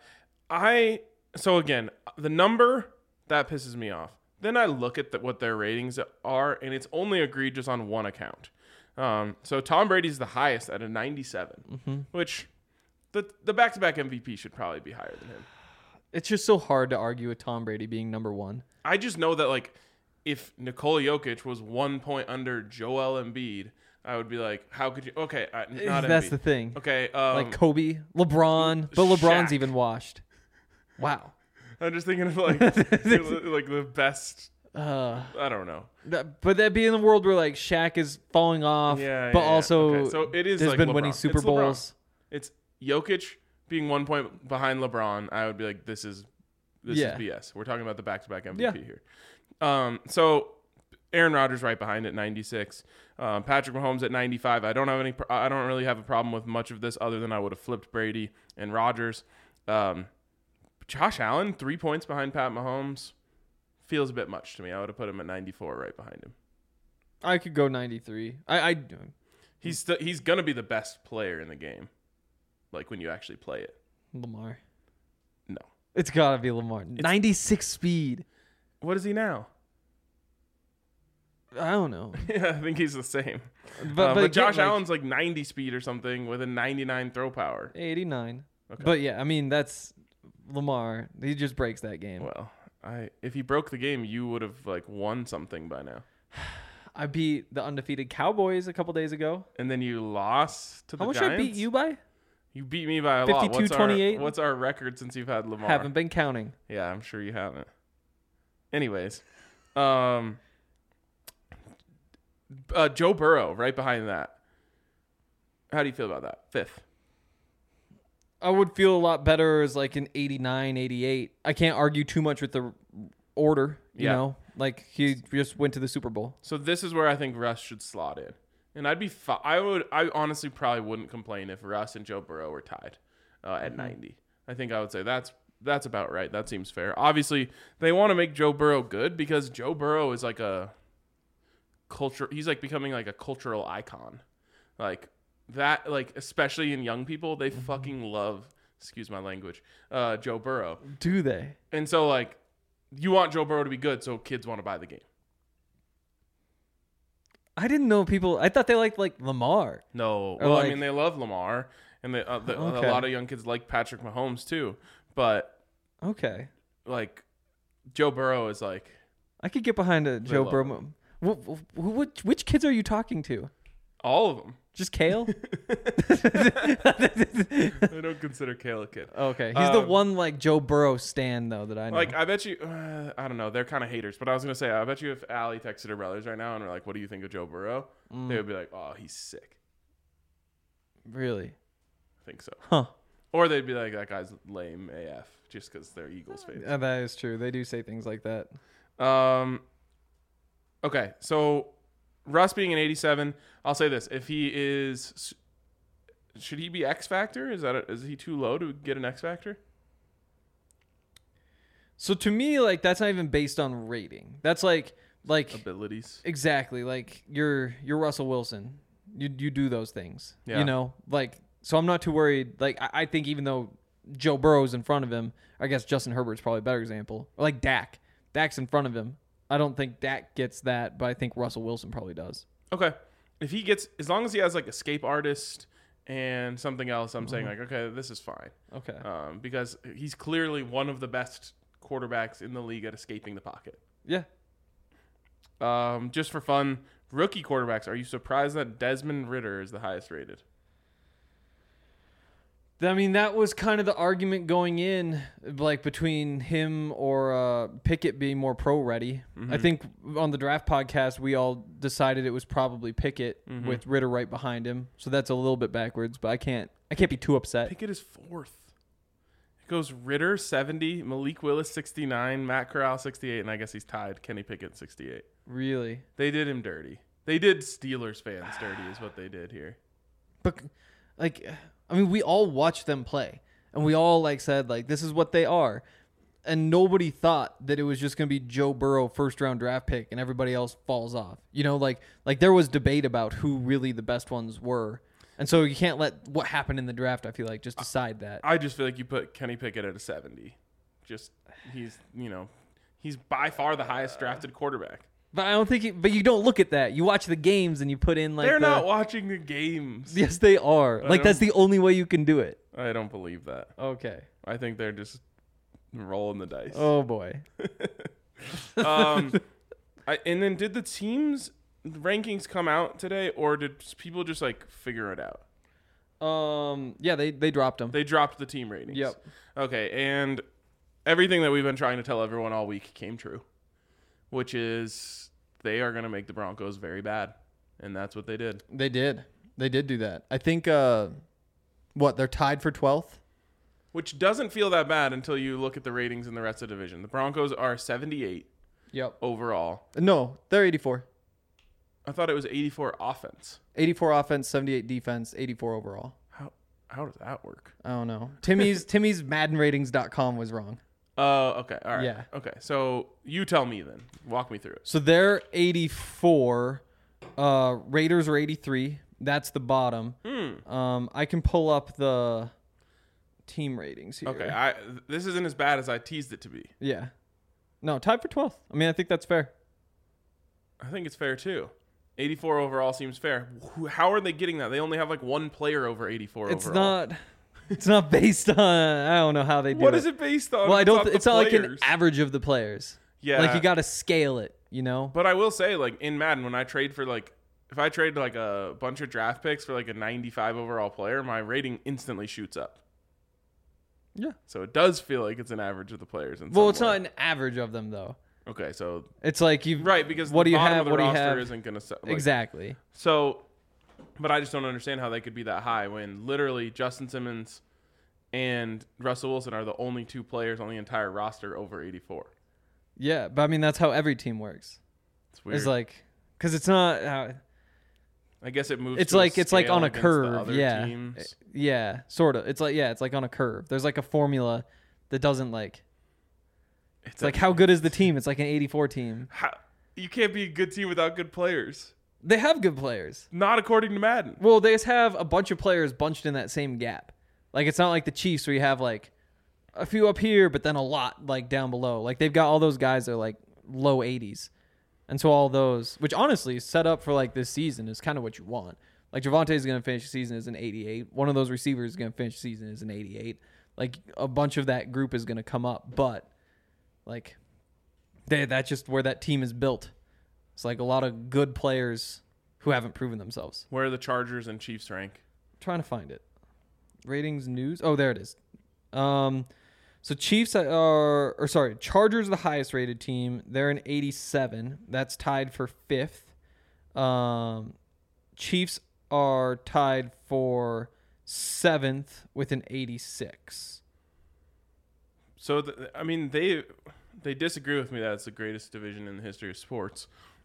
So again, the number, that pisses me off. Then I look at what their ratings are, and it's only egregious on one account. So Tom Brady's the highest at a 97, which the back-to-back MVP should probably be higher than him. It's just so hard to argue with Tom Brady being number one. I just know that, like, if Nikola Jokic was 1 point under Joel Embiid, I would be like, how could you? Okay, not That's Embiid. the thing. Okay, Like Kobe, LeBron, but LeBron's Shaq. even washed. Wow. I'm just thinking of like the best. I don't know. But that'd be in the world where like Shaq is falling off, Yeah, but yeah. also Okay, so it is has like been LeBron. winning Super It's LeBron. Bowls. It's Jokic being 1 point behind LeBron. I would be like, this is BS. We're talking about the back-to-back MVP here. So Aaron Rodgers right behind at 96. Patrick Mahomes at 95. I don't really have a problem with much of this other than I would have flipped Brady and Rodgers. Josh Allen 3 points behind Pat Mahomes feels a bit much to me. I would have put him at 94 right behind him. I could go 93. He's gonna be the best player in the game, like when you actually play it. Lamar. No. It's gotta be Lamar. 96 speed. What is he now? I don't know. Yeah, I think he's the same. But Josh like, Allen's like 90 speed or something with a 99 throw power. 89. Okay. But yeah, I mean that's Lamar. He just breaks that game. Well, if he broke the game, you would have like won something by now. I beat the undefeated Cowboys a couple days ago. And then you lost to the How much Giants. I beat you by? You beat me by a lot. 52-28? What's our record since you've had Lamar? Haven't been counting. Yeah, I'm sure you haven't. Anyways, Joe Burrow right behind that. How do you feel about that? Fifth. I would feel a lot better as like an 89, 88. I can't argue too much with the order, you know? Like he just went to the Super Bowl. So this is where I think Russ should slot in. And I'd be I honestly probably wouldn't complain if Russ and Joe Burrow were tied at 90. I think I would say that's about right. That seems fair. Obviously, they want to make Joe Burrow good because Joe Burrow is like a culture. He's like becoming like a cultural icon. Like that, like especially in young people, they fucking love, excuse my language, Joe Burrow. Do they? And so like you want Joe Burrow to be good so kids want to buy the game. I didn't know people. I thought they liked like Lamar. No. Or Well, like- I mean, they love Lamar, and a lot of young kids like Patrick Mahomes too. But Okay. like Joe Burrow is like I could get behind a Joe love Burrow. Which kids are you talking to? all of them. Just Kale? I don't consider Kale a kid. Okay. He's the one like Joe Burrow stan though that I know. Like I bet you, I don't know. They're kind of haters, but I was gonna say I bet you if Allie texted her brothers right now and were like, "What do you think of Joe Burrow?" They would be like, "Oh, he's sick." Really? I think so. Huh. Or they'd be like, "That guy's lame AF," just because they're Eagles fans. That is true. They do say things like that. Okay, so Russ being an 87, I'll say this: if he is, should he be X Factor? Is he too low to get an X Factor? So to me, like that's not even based on rating. That's like Abilities. exactly like you're Russell Wilson. You do those things. Yeah. You know, like so I'm not too worried. Like I think even though Joe Burrow's in front of him, I guess Justin Herbert's probably a better example. Or like Dak. Dak's in front of him. I don't think Dak gets that, but I think Russell Wilson probably does. Okay, if he gets, as long as he has like Escape Artist and something else, I'm saying like, okay, this is fine. Okay. Because he's clearly one of the best quarterbacks in the league at escaping the pocket. Yeah. Just for fun, rookie quarterbacks, are you surprised that Desmond Ridder is the highest rated? I mean, that was kind of the argument going in, like between him or Pickett being more pro ready. Mm-hmm. I think on the draft podcast, we all decided it was probably Pickett with Ridder right behind him. So that's a little bit backwards, but I can't be too upset. Pickett is 4th. It goes Ridder 70, Malik Willis 69, Matt Corral 68, and I guess he's tied. Kenny Pickett 68. Really? They did him dirty. They did Steelers fans dirty is what they did here. But like, I mean, we all watched them play, and we all like said like this is what they are, and nobody thought that it was just gonna be Joe Burrow first round draft pick and everybody else falls off. You know, like there was debate about who really the best ones were, and so you can't let what happened in the draft, I feel like, just decide that. I just feel like you put Kenny Pickett at a 70. Just he's by far the highest drafted quarterback. But I don't think. But you don't look at that. You watch the games and you put in like. They're not watching the games. Yes, they are. Like that's the only way you can do it. I don't believe that. Okay. I think they're just rolling the dice. Oh boy. And then did the teams rankings come out today, or did people just like figure it out? Yeah, they dropped them. They dropped the team ratings. Yep. Okay, and everything that we've been trying to tell everyone all week came true, which is they are going to make the Broncos very bad, and that's what they did. They did do that. I think they're tied for 12th, which doesn't feel that bad until you look at the ratings in the rest of the division. The Broncos are 78. Yep. Overall. No, they're 84. I thought it was 84 offense. 84 offense, 78 defense, 84 overall. How does that work? I don't know. Timmy's MaddenRatings.com was wrong. Okay. All right. Yeah. Okay. So you tell me then. Walk me through it. So they're 84. Raiders are 83. That's the bottom. I can pull up the team ratings here. Okay. This isn't as bad as I teased it to be. Yeah. No, tied for 12th. I mean, I think that's fair. I think it's fair too. 84 overall seems fair. How are they getting that? They only have like one player over 84 overall. It's not based on. I don't know how they do it. What is it based on? Well, I don't. It's not like an average of the players. Yeah. Like you got to scale it, you know. But I will say, like in Madden, when I trade for like, if I trade like a bunch of draft picks for like a 95 overall player, my rating instantly shoots up. Yeah. So it does feel like it's an average of the players. Well, it's not an average of them though. Okay, so it's like you right because what the do you bottom have? of the What do you roster have? isn't gonna like, exactly. So, but I just don't understand how they could be that high when literally Justin Simmons and Russell Wilson are the only two players on the entire roster over 84. Yeah, but I mean that's how every team works. It's weird. It's like because it's not. I guess it moves. It's to like a it's like scale on a against the curve. other Yeah. teams. Yeah, sort of. It's like on a curve. There's like a formula that doesn't like. It's like how good is the team? It's like an 84 team. You can't be a good team without good players. They have good players. Not according to Madden. Well, they just have a bunch of players bunched in that same gap. Like it's not like the Chiefs where you have like a few up here, but then a lot like down below. Like they've got all those guys that are like low 80s. And so all those, which honestly set up for like this season is kind of what you want. Like Javonte is going to finish the season as an 88. One of those receivers is going to finish the season as an 88. Like a bunch of that group is going to come up, but like that's just where that team is built. It's like a lot of good players who haven't proven themselves. Where are the Chargers and Chiefs rank? I'm trying to find it. Ratings news. Oh, there it is. So Chiefs Chargers are the highest rated team. They're an 87. That's tied for 5th. Chiefs are tied for 7th with an 86. So I mean they disagree with me that it's the greatest division in the history of sports,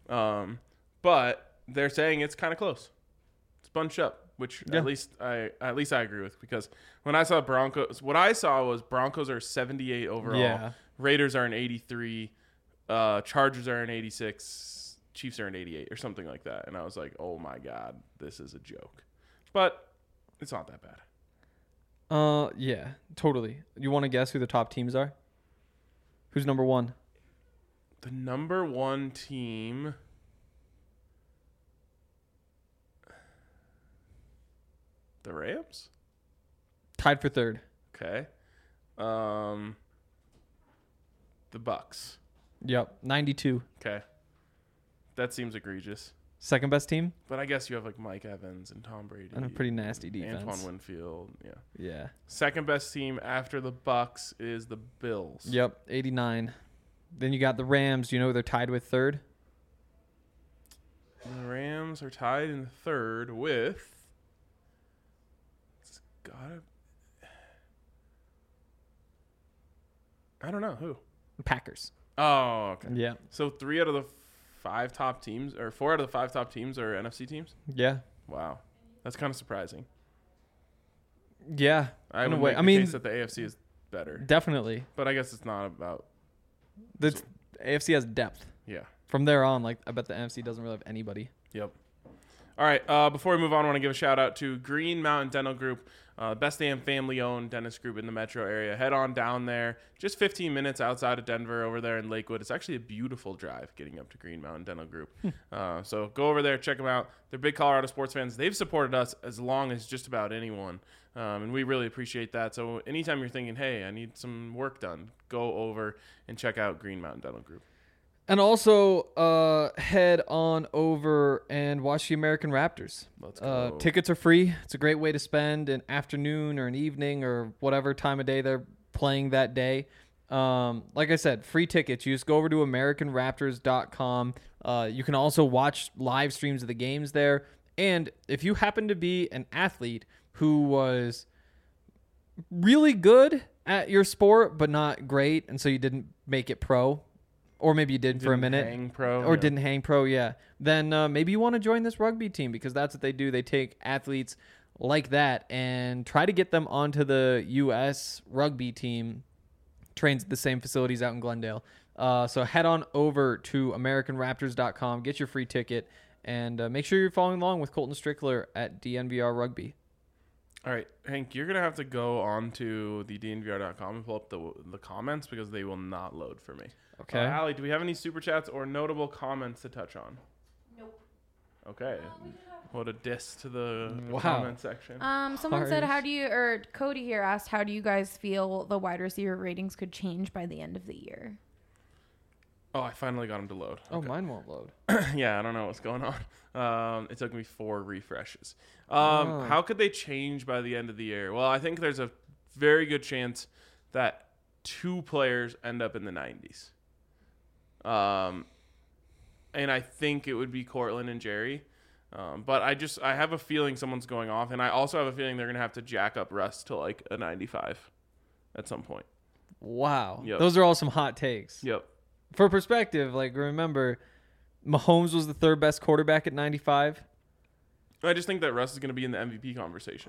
but they're saying it's kind of close. It's bunched up, which at least I agree with because when I saw Broncos, what I saw was Broncos are 78 overall, Yeah. Raiders are an 83, Chargers are an 86, Chiefs are an 88 or something like that, and I was like, oh my god, this is a joke, but it's not that bad. Yeah, totally. You want to guess who the top teams are? Who's number one? The number one team. The Rams? Tied for third. Okay. The Bucks. Yep, 92. Okay. That seems egregious. Second best team But I guess you have like Mike Evans and Tom Brady. and a pretty nasty defense. Antoine Winfield. Yeah. Yeah. Second best team after the Bucks is the Bills. Yep, 89. Then you got the Rams. You know they're tied with third? The Rams are tied in third with. It's gotta. I don't know who. Packers. Oh, okay. Yeah. So 3 out of the 5 top teams, or 4 out of the 5 top teams are NFC teams? Yeah. Wow. That's kind of surprising. Yeah. I in a would way. make I the mean, case that the AFC is better. definitely. But I guess it's not about. The AFC has depth. Yeah. From there on, like I bet the NFC doesn't really have anybody. Yep. All right. Before we move on, I want to give a shout out to Green Mountain Dental Group, best damn family-owned dentist group in the metro area. Head on down there. Just 15 minutes outside of Denver, over there in Lakewood. It's actually a beautiful drive getting up to Green Mountain Dental Group. So go over there, check them out. They're big Colorado sports fans. They've supported us as long as just about anyone, and we really appreciate that. So anytime you're thinking, hey, I need some work done, go over and check out Green Mountain Dental Group. And also, head on over and watch the American Raptors. Let's go. Tickets are free. It's a great way to spend an afternoon or an evening or whatever time of day they're playing that day. Like I said, free tickets. You just go over to AmericanRaptors.com. You can also watch live streams of the games there. And if you happen to be an athlete who was really good at your sport but not great, and so you didn't make it pro, or maybe you did for a minute, hang pro, or yeah. didn't hang pro, yeah. Then maybe you want to join this rugby team because that's what they do. They take athletes like that and try to get them onto the U.S. rugby team. Trains at the same facilities out in Glendale. So head on over to AmericanRaptors.com, get your free ticket, and make sure you're following along with Colton Strickler at DNVR Rugby. All right, Hank, you're going to have to go on to the DNVR.com and pull up the comments because they will not load for me. Okay. Allie, do we have any super chats or notable comments to touch on? Nope. Okay. What a diss to the Wow. comment section. Someone said, Harsh. Cody here asked, how do you guys feel the wide receiver ratings could change by the end of the year? Oh, I finally got him to load. Oh, Okay. mine won't load. Yeah, I don't know what's going on. It took me 4 refreshes. Oh. How could they change by the end of the year? Well, I think there's a very good chance that 2 players end up in the 90s. And I think it would be Cortland and Jerry. But I have a feeling someone's going off, and I also have a feeling they're going to have to jack up Russ to like a 95 at some point. Wow. Yep. Those are all some hot takes. Yep. For perspective, like remember, Mahomes was the third best quarterback at 95. I just think that Russ is going to be in the MVP conversation.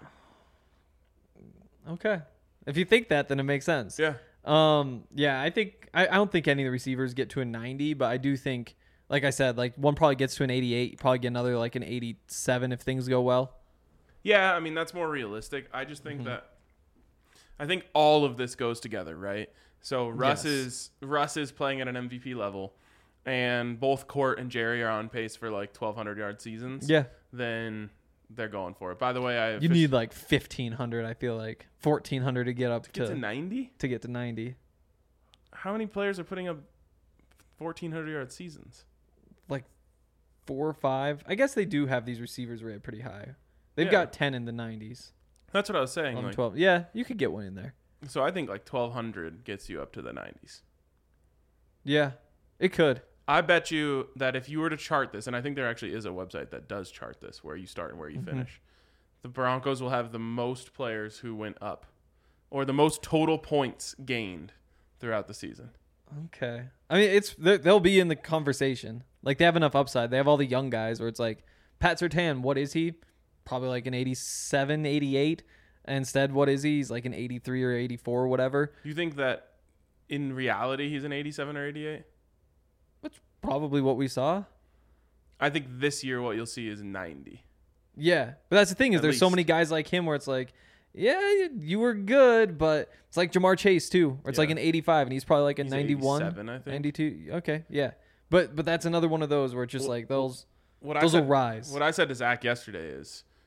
Okay. If you think that, then it makes sense. Yeah. Yeah, I think I don't think any of the receivers get to a 90, but I do think, like I said, like one probably gets to an 88. You probably get another like an 87 if things go well. Yeah, I mean, that's more realistic. I just think that I think all of this goes together, right? So Russ is playing at an MVP level, and both Court and Jerry are on pace for like 1,200 yard seasons. Yeah. Then they're going for it. By the way, You need like 1,500, I feel like 1,400 to get up get to 90. to get to 90. How many players are putting up 1,400 yard seasons? Like 4 or 5. I guess they do have these receivers rated pretty high. They've Yeah. got 10 in the 90s. That's what I was saying. 11, Like, 12. Yeah, you could get one in there. so I think like 1,200 gets you up to the 90s. Yeah, it could. I bet you that if you were to chart this, and I think there actually is a website that does chart this, where you start and where you finish, the Broncos will have the most players who went up, or the most total points gained throughout the season. Okay. I mean, they'll be in the conversation. Like, they have enough upside. They have all the young guys where it's like, Pat Surtain, what is he? Probably like an 87, 88. Instead, what is he? He's like an 83 or 84 or whatever. Do you think that in reality he's an 87 or 88? That's probably what we saw. I think this year what you'll see is 90. Yeah. But that's the thing is At there's so least. many guys like him where it's like, yeah, you were good, but it's like Jamar Chase too, where it's like Yeah. an 85 and he's probably like a He's 91, 87, I think. 92. Okay, yeah. But that's another one of those where it's just Well, like those What will I said, rise. What I said to Zach yesterday is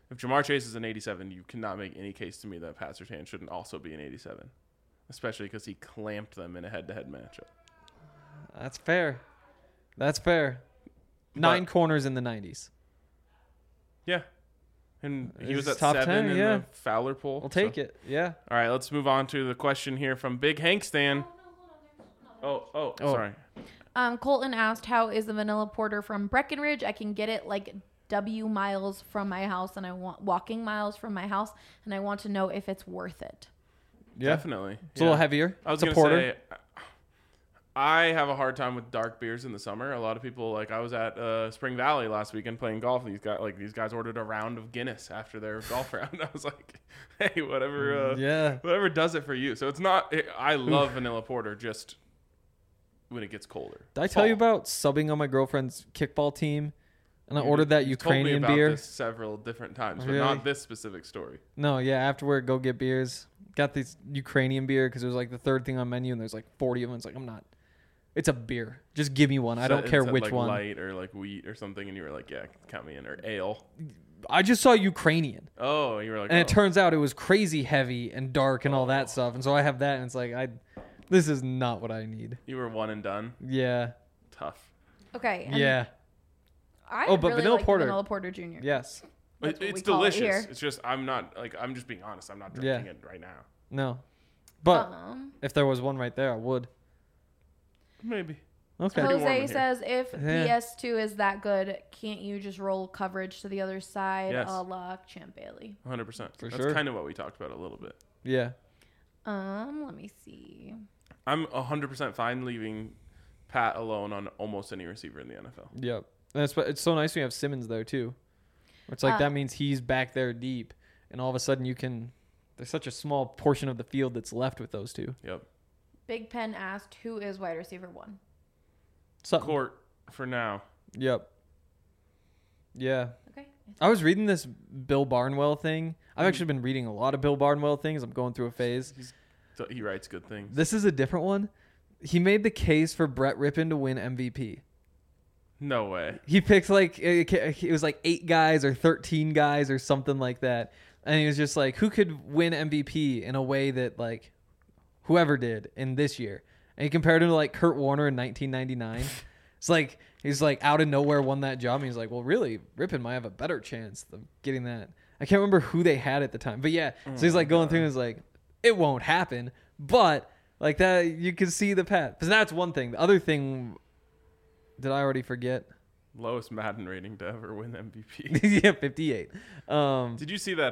If Jamar Chase is an 87, you cannot make any case to me that Pat Surtain shouldn't also be an 87, especially because he clamped them in a head-to-head matchup. That's fair. That's fair. 9 corners in the 90s. Yeah. And he was He's at top 7 10, in yeah. the Fowler poll. I'll take it. Yeah. All right, let's move on to the question here from Big Hank Stan. Oh, sorry. Colton asked, how is the vanilla porter from Breckenridge? I can get it like W miles from my house, and I want walking miles from my house, and I want to know if it's worth it. Yeah. Definitely. It's a little heavier. I was It's a going to porter. say, I have a hard time with dark beers in the summer. A lot of people, like I was at Spring Valley last weekend playing golf. These guys ordered a round of Guinness after their golf round. I was like, hey, whatever does it for you. So it's not. I love vanilla porter just when it gets colder. Did I tell you about subbing on my girlfriend's kickball team, and I ordered that You've told me Ukrainian about beer? this several different times, but Really? not this specific story. No, yeah. Afterward, go get beers. Got this Ukrainian beer because it was like the third thing on menu, and there's like 40 of them. It's like, I'm not. It's a beer. Just give me one. I don't care which like one. Light or like wheat or something, and you were like, yeah, count me in. Or ale. I just saw Ukrainian, Oh, you were like, and oh. it turns out it was crazy heavy and dark and all that stuff. And so I have that, and it's like, this is not what I need. You were one and done. Yeah. Tough. Okay. And Yeah. I Oh, but really vanilla like the porter. Vanilla Porter Jr. Yes. That's what It's we call it delicious. here. It's just I'm just being honest. I'm not Yeah. drinking it right now. No. But Um, if there was one right there, I would. Maybe. Okay. Pretty warm in Jose here. says, if Yeah. PS2 is that good, can't you just roll coverage to the other side, Yes. a la Champ Bailey? 100%. For That's sure. kind of what we talked about a little bit. Yeah. Let me see. I'm 100% fine leaving Pat alone on almost any receiver in the NFL. Yep. And it's so nice when you have Simmons there too. It's like that means he's back there deep, and all of a sudden there's such a small portion of the field that's left with those two. Yep. Big Pen asked, who is wide receiver 1? Something. Court for now. Yep. Yeah. Okay. I was reading this Bill Barnwell thing. I've actually been reading a lot of Bill Barnwell things. I'm going through a phase. He writes good things. This is a different one. He made the case for Brett Rippon to win MVP. No way. He picked it was like 8 guys or 13 guys or something like that. And he was just like, who could win MVP in a way that like whoever did in this year? And he compared him to like Kurt Warner in 1999. It's like he's like out of nowhere won that job. And he's like, well, really, Rippon might have a better chance of getting that. I can't remember who they had at the time, but yeah. So he's like going through and he's like, it won't happen, but like that you can see the path. Because that's one thing. The other thing, did I already forget? Lowest Madden rating to ever win MVP. Yeah, 58. Did you see that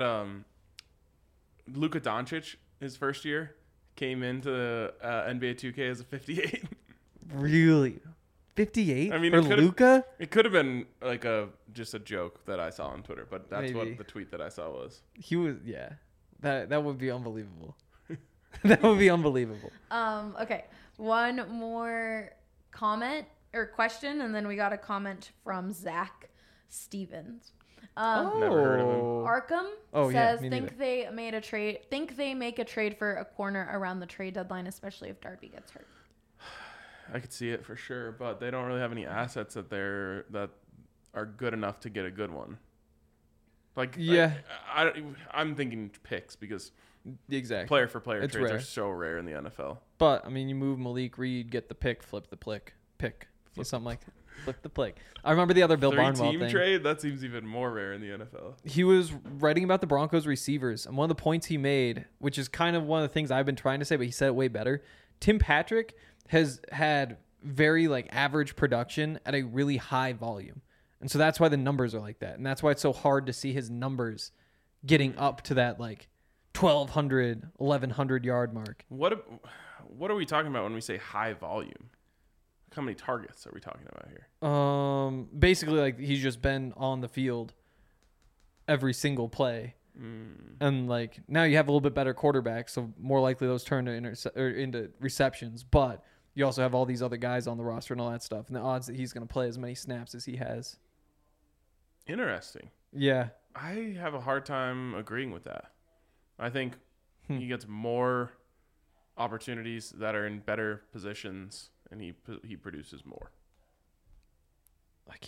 Luka Doncic, his first year, came into NBA 2K as a 58? Really? 58 I mean, for it could've- Luka? It could have been like just a joke that I saw on Twitter, but that's Maybe. what the tweet that I saw was. He was, yeah. That would be unbelievable. That would be unbelievable. Okay. One more comment or question, and then we got a comment from Zach Stevens. Never heard of him. Arkham Oh, yeah, says me think they make a trade for a corner around the trade deadline, especially if Darby gets hurt. I could see it for sure, but they don't really have any assets that are good enough to get a good one. Like, Yeah. I'm thinking picks because Exactly. player for player It's trades rare. are so rare in the NFL. But, I mean, you move Malik Reed, get the pick, flip the pick. Or something like that. Flip the pick. I remember the other Bill Barnwell Three-team thing. trade? That seems even more rare in the NFL. He was writing about the Broncos receivers, and one of the points he made, which is kind of one of the things I've been trying to say, but he said it way better. Tim Patrick has had very like average production at a really high volume. And so that's why the numbers are like that. And that's why it's so hard to see his numbers getting up to that like 1,200, 1,100 yard mark. What are we talking about when we say high volume? How many targets are we talking about here? Basically like he's just been on the field every single play. And like now you have a little bit better quarterback, so more likely those turn to into receptions. But you also have all these other guys on the roster and all that stuff, and the odds that he's going to play as many snaps as he has. Interesting. Yeah, I have a hard time agreeing with that. I think he gets more opportunities that are in better positions, and he produces more. I can't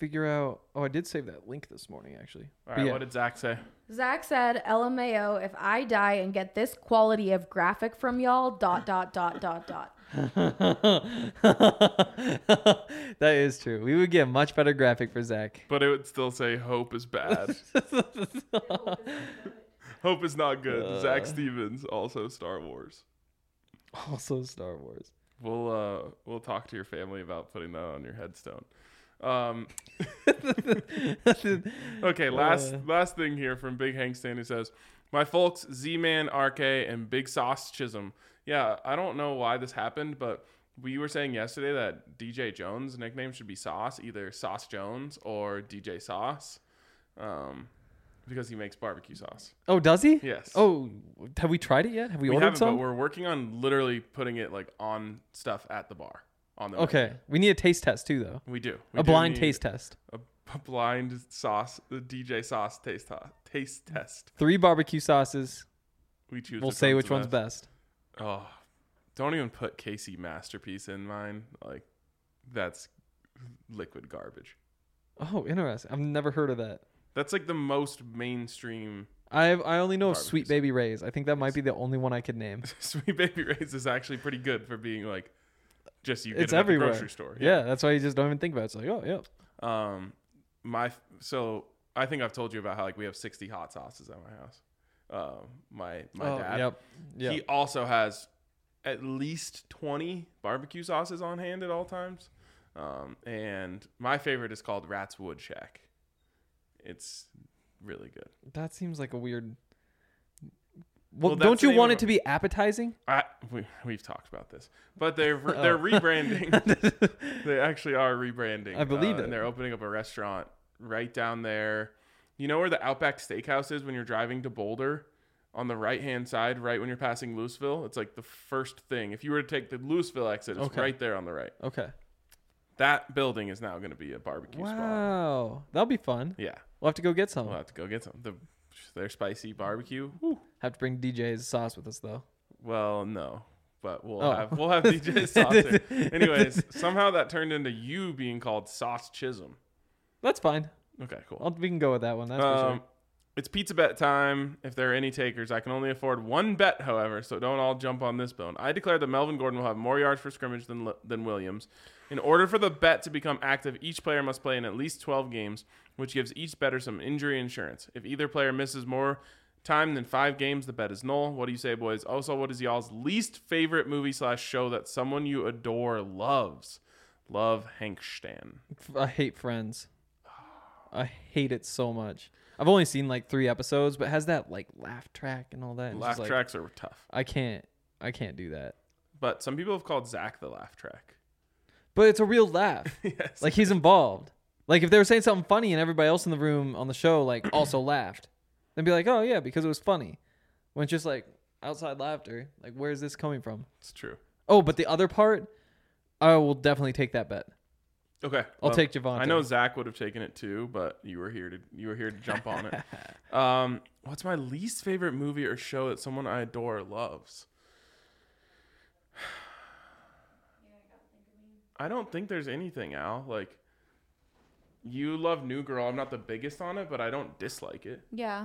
figure out. Oh, I did save that link this morning, actually. All But right, yeah. what did Zach say? Zach said, LMAO, if I die and get this quality of graphic from y'all, ... That is true. We would get a much better graphic for Zach. But it would still say hope is bad. Hope is not good. Zach Stevens, also Star Wars. Also Star Wars. We'll talk to your family about putting that on your headstone. Okay, last thing here from Big Hank Stan, who says, my folks Z-Man, RK, and Big Sauce Chisholm. Yeah, I don't know why this happened, but we were saying yesterday that DJ Jones' nickname should be Sauce, either Sauce Jones or DJ Sauce, because he makes barbecue sauce. Oh, does he? Yes. Oh, have we tried it yet? Have we We ordered haven't, some? but we're working on literally putting it like on stuff at the bar. On the Okay. menu. We need a taste test too, though. We do. A blind taste test. A blind sauce, the DJ Sauce taste test. 3 barbecue sauces. We choose. We'll say which one's best. Oh, don't even put Casey Masterpiece in mine. Like, that's liquid garbage. Oh, interesting. I've never heard of that. That's like the most mainstream. I only know of Barbecue Sweet sauce. Baby Ray's. I think that might be the only one I could name. Sweet Baby Ray's is actually pretty good for being like, just you get It's it at the everywhere. grocery store. Yeah, that's why you just don't even think about it. It's like, oh, yeah. So I think I've told you about how like we have 60 hot sauces at my house. My dad. Yep. He also has at least 20 barbecue sauces on hand at all times. And my favorite is called Rat's Wood Shack. It's really good. That seems like a weird. Well, Well, that's don't the you name want of it to be appetizing? We've talked about this, but they're rebranding. They actually are rebranding. I believe it. And they're opening up a restaurant right down there. You know where the Outback Steakhouse is when you're driving to Boulder? On the right-hand side, right when you're passing Louisville. It's like the first thing. If you were to take the Louisville exit, it's Okay. right there on the right. Okay. That building is now going to be a barbecue spot. Wow. That'll be fun. Yeah. We'll have to go get some. We'll have to go get some. Their spicy barbecue. Whew. Have to bring DJ's sauce with us, though. Well, no. But we'll Oh. have DJ Sauce here. Anyways, somehow that turned into you being called Sauce Chisholm. That's fine. Okay, cool. We can go with that one. That's for sure. It's pizza bet time. If there are any takers, I can only afford one bet, however, so don't all jump on this bone. I declare that Melvin Gordon will have more yards per scrimmage than Williams. In order for the bet to become active, each player must play in at least 12 games, which gives each bettor some injury insurance. If either player misses more time than 5 games, the bet is null. What do you say, boys? Also, what is y'all's least favorite movie/show that someone you adore loves? Love, Hank Stan. I hate Friends. I hate it so much. I've only seen like 3 episodes, but it has that like laugh track and all that. and it's Laugh just, like, tracks are tough. I can't do that. But some people have called Zach the laugh track. But it's a real laugh. Yes. Like he's involved. Like if they were saying something funny and everybody else in the room on the show like also laughed, they'd be like, "Oh yeah, because it was funny." When it's just like outside laughter, like where is this coming from? It's true. Oh, but the other part, I will definitely take that bet. Okay. I'll take Javante. I know Zach would have taken it too, but you were here to jump on it. What's my least favorite movie or show that someone I adore loves? I don't think there's anything, Al. Like, you love New Girl. I'm not the biggest on it, but I don't dislike it. Yeah.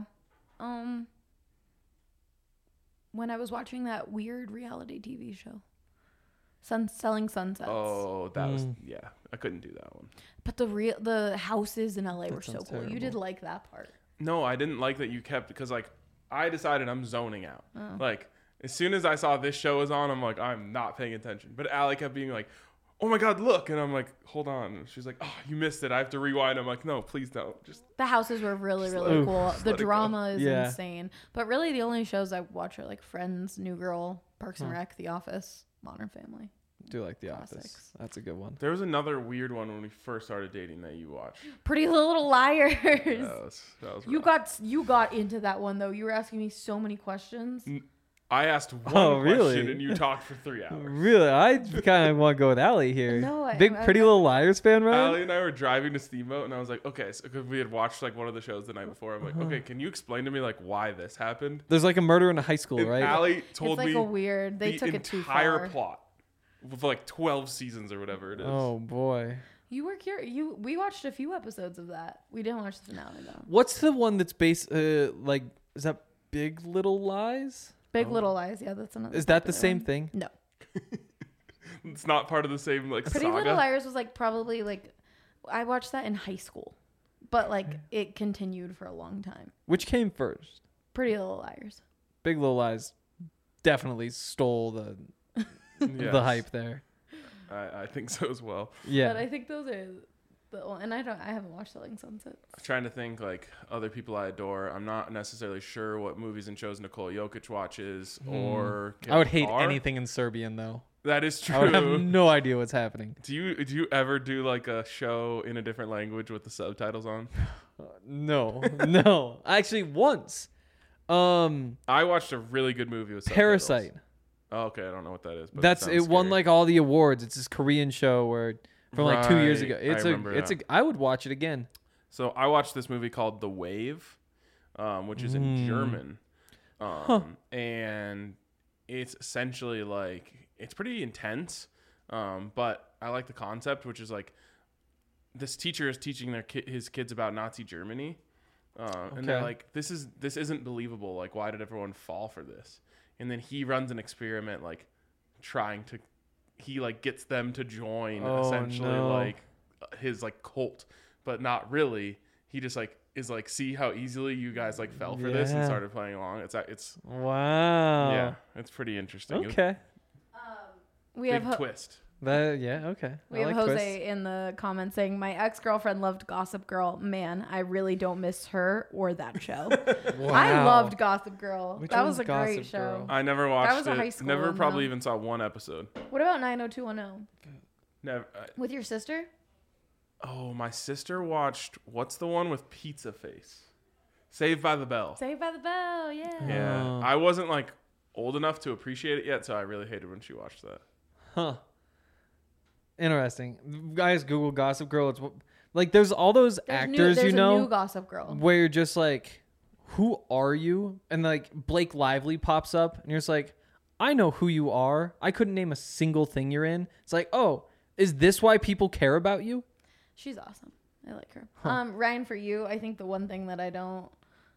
When I was watching that weird reality TV show, Selling Sunsets. Oh, that was I couldn't do that one. But the houses in LA were so sounds cool. You terrible. did like that part. No, I didn't like that you kept because like I decided I'm zoning out. Oh. Like as soon as I saw this show was on, I'm like I'm not paying attention. But Allie kept being like, "Oh my God, look!" And I'm like, "Hold on." And she's like, "Oh, you missed it. I have to rewind." I'm like, "No, please don't." Just The houses were really, Just really let- cool. just The let it go. drama is Yeah. insane. But really, the only shows I watch are like Friends, New Girl, Parks and Rec, The Office, Modern Family. Do like The Classics. Office. That's a good one. there was another weird one when we first started dating that you watched. Pretty Little Liars. That was rough. You got into that one though. You were asking me so many questions. I asked one Oh, question really? and you talked for 3 hours. Really, I kind of want to go with Allie here. No, Big Pretty Little Liars fan, right? Allie and I were driving to Steamboat, and I was like, "Okay," so because we had watched like one of the shows the night before. I'm like, "Okay, can you explain to me like why this happened?" There's like a murder in a high school, And right? Allie told It's like me a weird. They the took it too entire far. plot with like 12 seasons or whatever it is. Oh boy. You were curious. We watched a few episodes of that. We didn't watch the finale though. What's the one that's based like is that Big Little Lies? Big Little Lies. Yeah, that's another. Is that the popular same one. thing? No. It's not part of the same like Pretty saga. Little Liars was like probably like I watched that in high school, but like it continued for a long time. Which came first? Pretty Little Liars. Big Little Lies definitely stole the Yes. the hype there. I think so as well. Yeah. But I think those are and I haven't watched Selling Sunset. I'm trying to think like other people I adore. I'm not necessarily sure what movies and shows Nikola Jokic watches or I would hate are. anything in Serbian though. That is true. I would have no idea what's happening. Do you ever do like a show in a different language with the subtitles on? No. No. Actually once. I watched a really good movie with subtitles. Parasite. Oh, okay, I don't know what that is. But It sounds won scary. like all the awards. It's this Korean show where from like 2 years Right, ago. I remember that. I would watch it again. So I watched this movie called The Wave, which is in German, and it's essentially like it's pretty intense, but I like the concept, which is like this teacher is teaching his kids about Nazi Germany, and they're Okay. like, this isn't believable. Like, why did everyone fall for this? And then he runs an experiment, like he like gets them to join essentially no. like his like cult, but not really. He just like is like, see how easily you guys like fell for this and Yeah. started playing along. It's Wow. yeah, it's pretty interesting. Okay. We Big have twist. Okay. We I have like Jose twists. in the comments saying, "My ex-girlfriend loved Gossip Girl. Man, I really don't miss her or that show. I Wow. loved Gossip Girl. Which that one's was a Gossip great show. Girl? I never watched was a it. high school Never one, probably though. even saw one episode. What about 90210 Never. with your sister? Oh, my sister watched. What's the one with Pizza Face? Saved by the Bell. Saved by the Bell. Yeah. Yeah, Oh. I wasn't like old enough to appreciate it yet, so I really hated when she watched that. Huh. Interesting. Guys, Google Gossip Girl. It's like there's all those actors there's you know a new Gossip Girl. where you're just like, who are you? And like Blake Lively pops up, and you're just like, I know who you are. I couldn't name a single thing you're in. It's like, oh, is this why people care about you? She's awesome. I like her. Ryan, for you, I think the one thing that I don't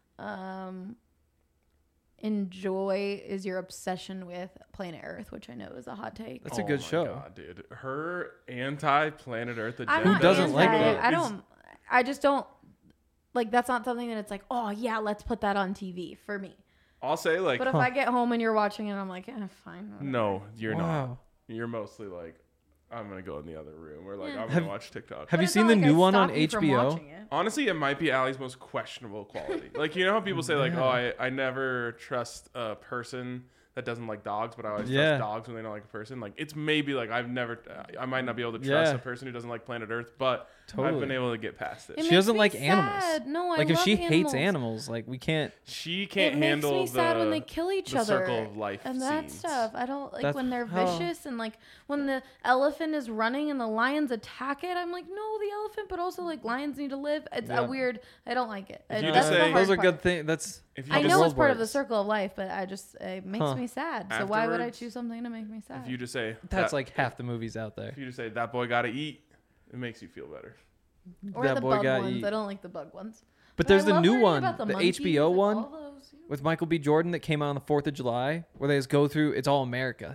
enjoy is your obsession with Planet Earth, which I know is a hot take. That's a good show. God, dude. Her anti-Planet Earth agenda. I'm not doesn't like anti- that? I don't. I just don't like. That's not something that it's like. Oh yeah, let's put that on TV for me. I'll say like, But if I get home and you're watching it, I'm like, fine. whatever. no, you're not. Wow. You're mostly like, I'm gonna go in the other room, or like Yeah. I'm gonna watch TikTok. Have But you it's seen not the like new I one on stop you from HBO? watching it. Honestly, it might be Allie's most questionable quality. Like, you know how people say like, oh, I never trust a person that doesn't like dogs, but I always Yeah. trust dogs when they don't like a person. Like, it's maybe like I might not be able to trust Yeah. a person who doesn't like Planet Earth, but I've Totally. been able to get past it. It She makes doesn't me like sad. animals. No, I Like if love she hates animals. animals, like we can't. She It can't makes handle me the sad when they kill each the other circle of life and that scenes. stuff. I don't like That's when they're how- vicious and like when the elephant is running and the lions attack it. I'm like, no, the elephant, but also like lions need to live. It's Yeah. a weird. I don't like it. If you That's just the say- hard those are part. good things. That's If you I just- know the it's world part of the works. circle of life, but I just it makes Huh. me sad. So why would I Afterwards, choose something to make me sad? If you just say That's that- like half the movies out there. if you just say that boy got to eat, it makes you feel better. or that the boy bug got ones. eat. I don't like the bug ones. But I there's the love new learning one, about the monkeys HBO and one all those. with Michael B. Jordan that came out on the 4th of July, where they just go through. It's all America.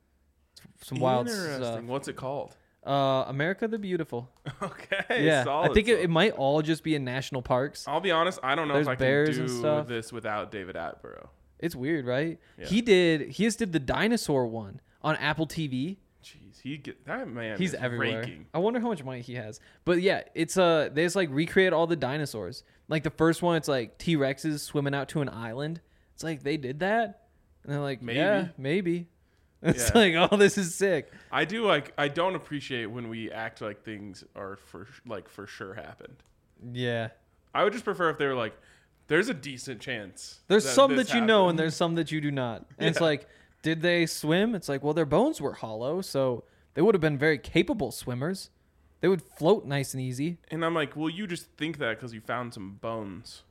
Some wild Interesting. stuff. What's it called? America the Beautiful. Okay. Yeah, solid, I think it solid. might all just be in national parks. I'll be honest. I don't know There's if I bears can and do stuff. this without David Attenborough. It's weird, right? Yeah. He just did the dinosaur one on Apple TV. Jeez, that man. He's is everywhere. raking. I wonder how much money he has. But yeah, it's they just like recreate all the dinosaurs. Like the first one, it's like T-Rexes swimming out to an island. It's like they did that, and they're like, Maybe. yeah, maybe. It's Yeah. like, oh, this is sick. I do like. I don't appreciate when we act like things are for sure happened. Yeah. I would just prefer if they were like, "There's a decent chance." There's some this that you know, and happened." there's some that you do not. And it's Yeah. like, did they swim? It's like, well, their bones were hollow, so they would have been very capable swimmers. They would float nice and easy. And I'm like, well, you just think that because you found some bones,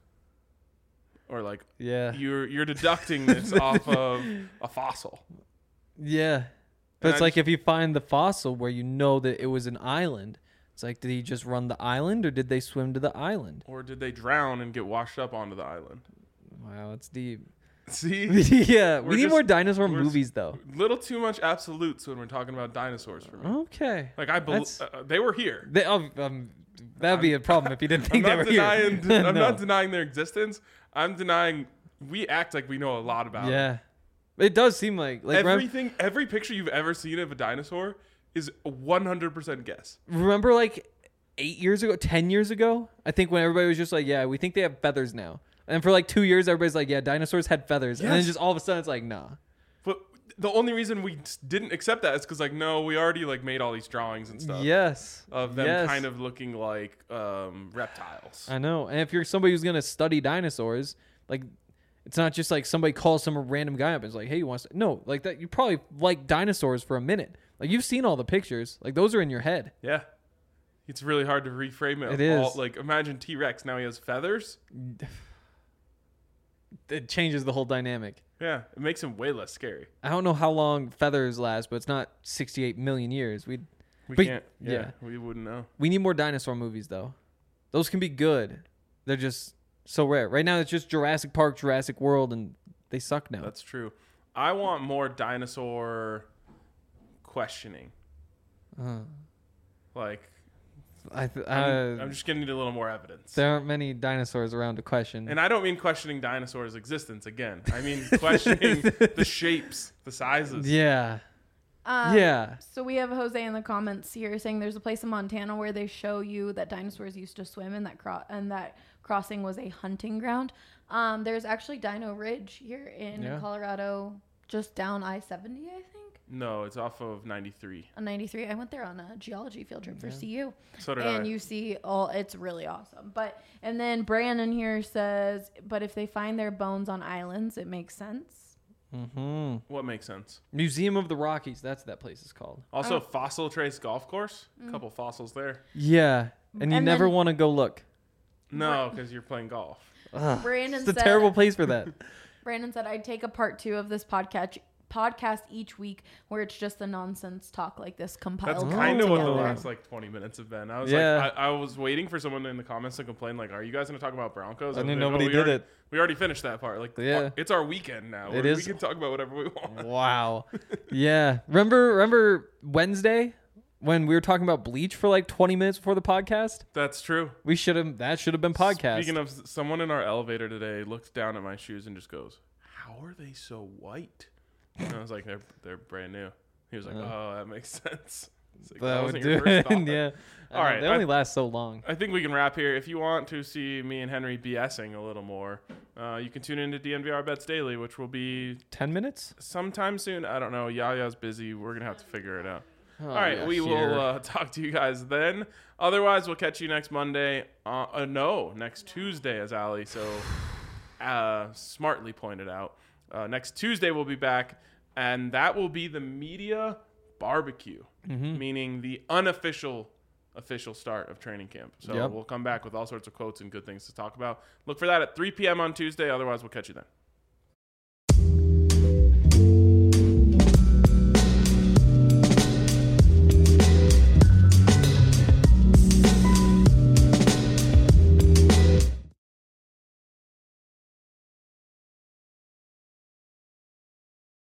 or like Yeah. you're deducting this off of a fossil. Yeah. But And it's I like just- if you find the fossil where you know that it was an island, It's like, did he just run the island or did they swim to the island? Or did they drown and get washed up onto the island? Wow, it's deep. See? Yeah, We're we need just- more dinosaur we're movies, though. Little too much absolutes when we're talking about dinosaurs for me. Okay. Like, I believe they were here. That'd be a problem if you didn't I'm think they not were denying. here. I'm No. not denying their existence. I'm denying. We act like we know a lot about them. Yeah. It does seem like Every picture you've ever seen of a dinosaur is a 100% guess. remember like 8 years ago, 10 years ago, I think when everybody was just like, yeah, we think they have feathers now. And for like 2 years, everybody's like, yeah, dinosaurs had feathers. And then Yes. just all of a sudden it's like, nah. But the only reason we didn't accept that is because, like, no, we already like made all these drawings and stuff Yes. of them Yes. kind of looking like reptiles. I know. And if you're somebody who's going to study dinosaurs, like, it's not just like somebody calls some random guy up and is like, hey, you want to... No, like that. You probably like dinosaurs for a minute. Like, you've seen all the pictures. Like, those are in your head. Yeah. It's really hard to reframe it. It is. Like, imagine T-Rex. Now he has feathers. It changes the whole dynamic. Yeah. It makes him way less scary. I don't know how long feathers last, but it's not 68 million years. We But- can't. Yeah, yeah. We wouldn't know. We need more dinosaur movies, though. Those can be good. They're just so rare. Right now, it's just Jurassic Park, Jurassic World, and they suck now. That's true. I want more dinosaur questioning. Like, I'm just gonna need a little more evidence. There aren't many dinosaurs around to question. And I don't mean questioning dinosaurs' existence again. I mean questioning the shapes, the sizes. Yeah. Yeah. So we have Jose in the comments here saying there's a place in Montana where they show you that dinosaurs used to swim and that crossing was a hunting ground. There's actually Dino Ridge here in Colorado, just down I-70, I think. No, it's off of 93. On 93. I went there on a geology field trip for CU. So did I. And you see it's really awesome. And then Brandon here says, but if they find their bones on islands, it makes sense. Mm-hmm. What makes sense? Museum of the Rockies. That's what that place is called. Also, Fossil Trace Golf Course. A couple fossils there. Yeah. And you And never then- want to go look. No, because you're playing golf. Ugh, Brandon it's a said- terrible place for that. Brandon said, I'd take a part 2 of this podcast each week where it's just the nonsense talk like this compiled. That's all kind of what the together. last like 20 minutes have been. I was Yeah. like, I was waiting for someone in the comments to complain, like, are you guys going to talk about Broncos? And then was like, nobody we did already- it. We already finished that part. Like, Yeah. it's our weekend now. It We is. can talk about whatever we want. Wow. Yeah. Remember Wednesday when we were talking about Bleach for like 20 minutes before the podcast? That's true. That should have been podcast. Speaking of, someone in our elevator today looked down at my shoes and just goes, how are they so white? And I was like, they're brand new. He was like, oh, that makes sense. It's like, that would wasn't do your first it. thought. Yeah. All right, They only last so long. I think we can wrap here. If you want to see me and Henry BSing a little more, you can tune into DNVR Bets Daily, which will be 10 minutes? sometime soon. I don't know. Yaya's busy. We're going to have to figure it out. Oh, All right, yeah, we here. will talk to you guys then. Otherwise, we'll catch you next Monday. Next Tuesday, as Ali so smartly pointed out. Next Tuesday, we'll be back, and that will be the media barbecue, meaning the unofficial start of training camp. So Yep. we'll come back with all sorts of quotes and good things to talk about. Look for that at 3 p.m. on Tuesday. Otherwise, we'll catch you then.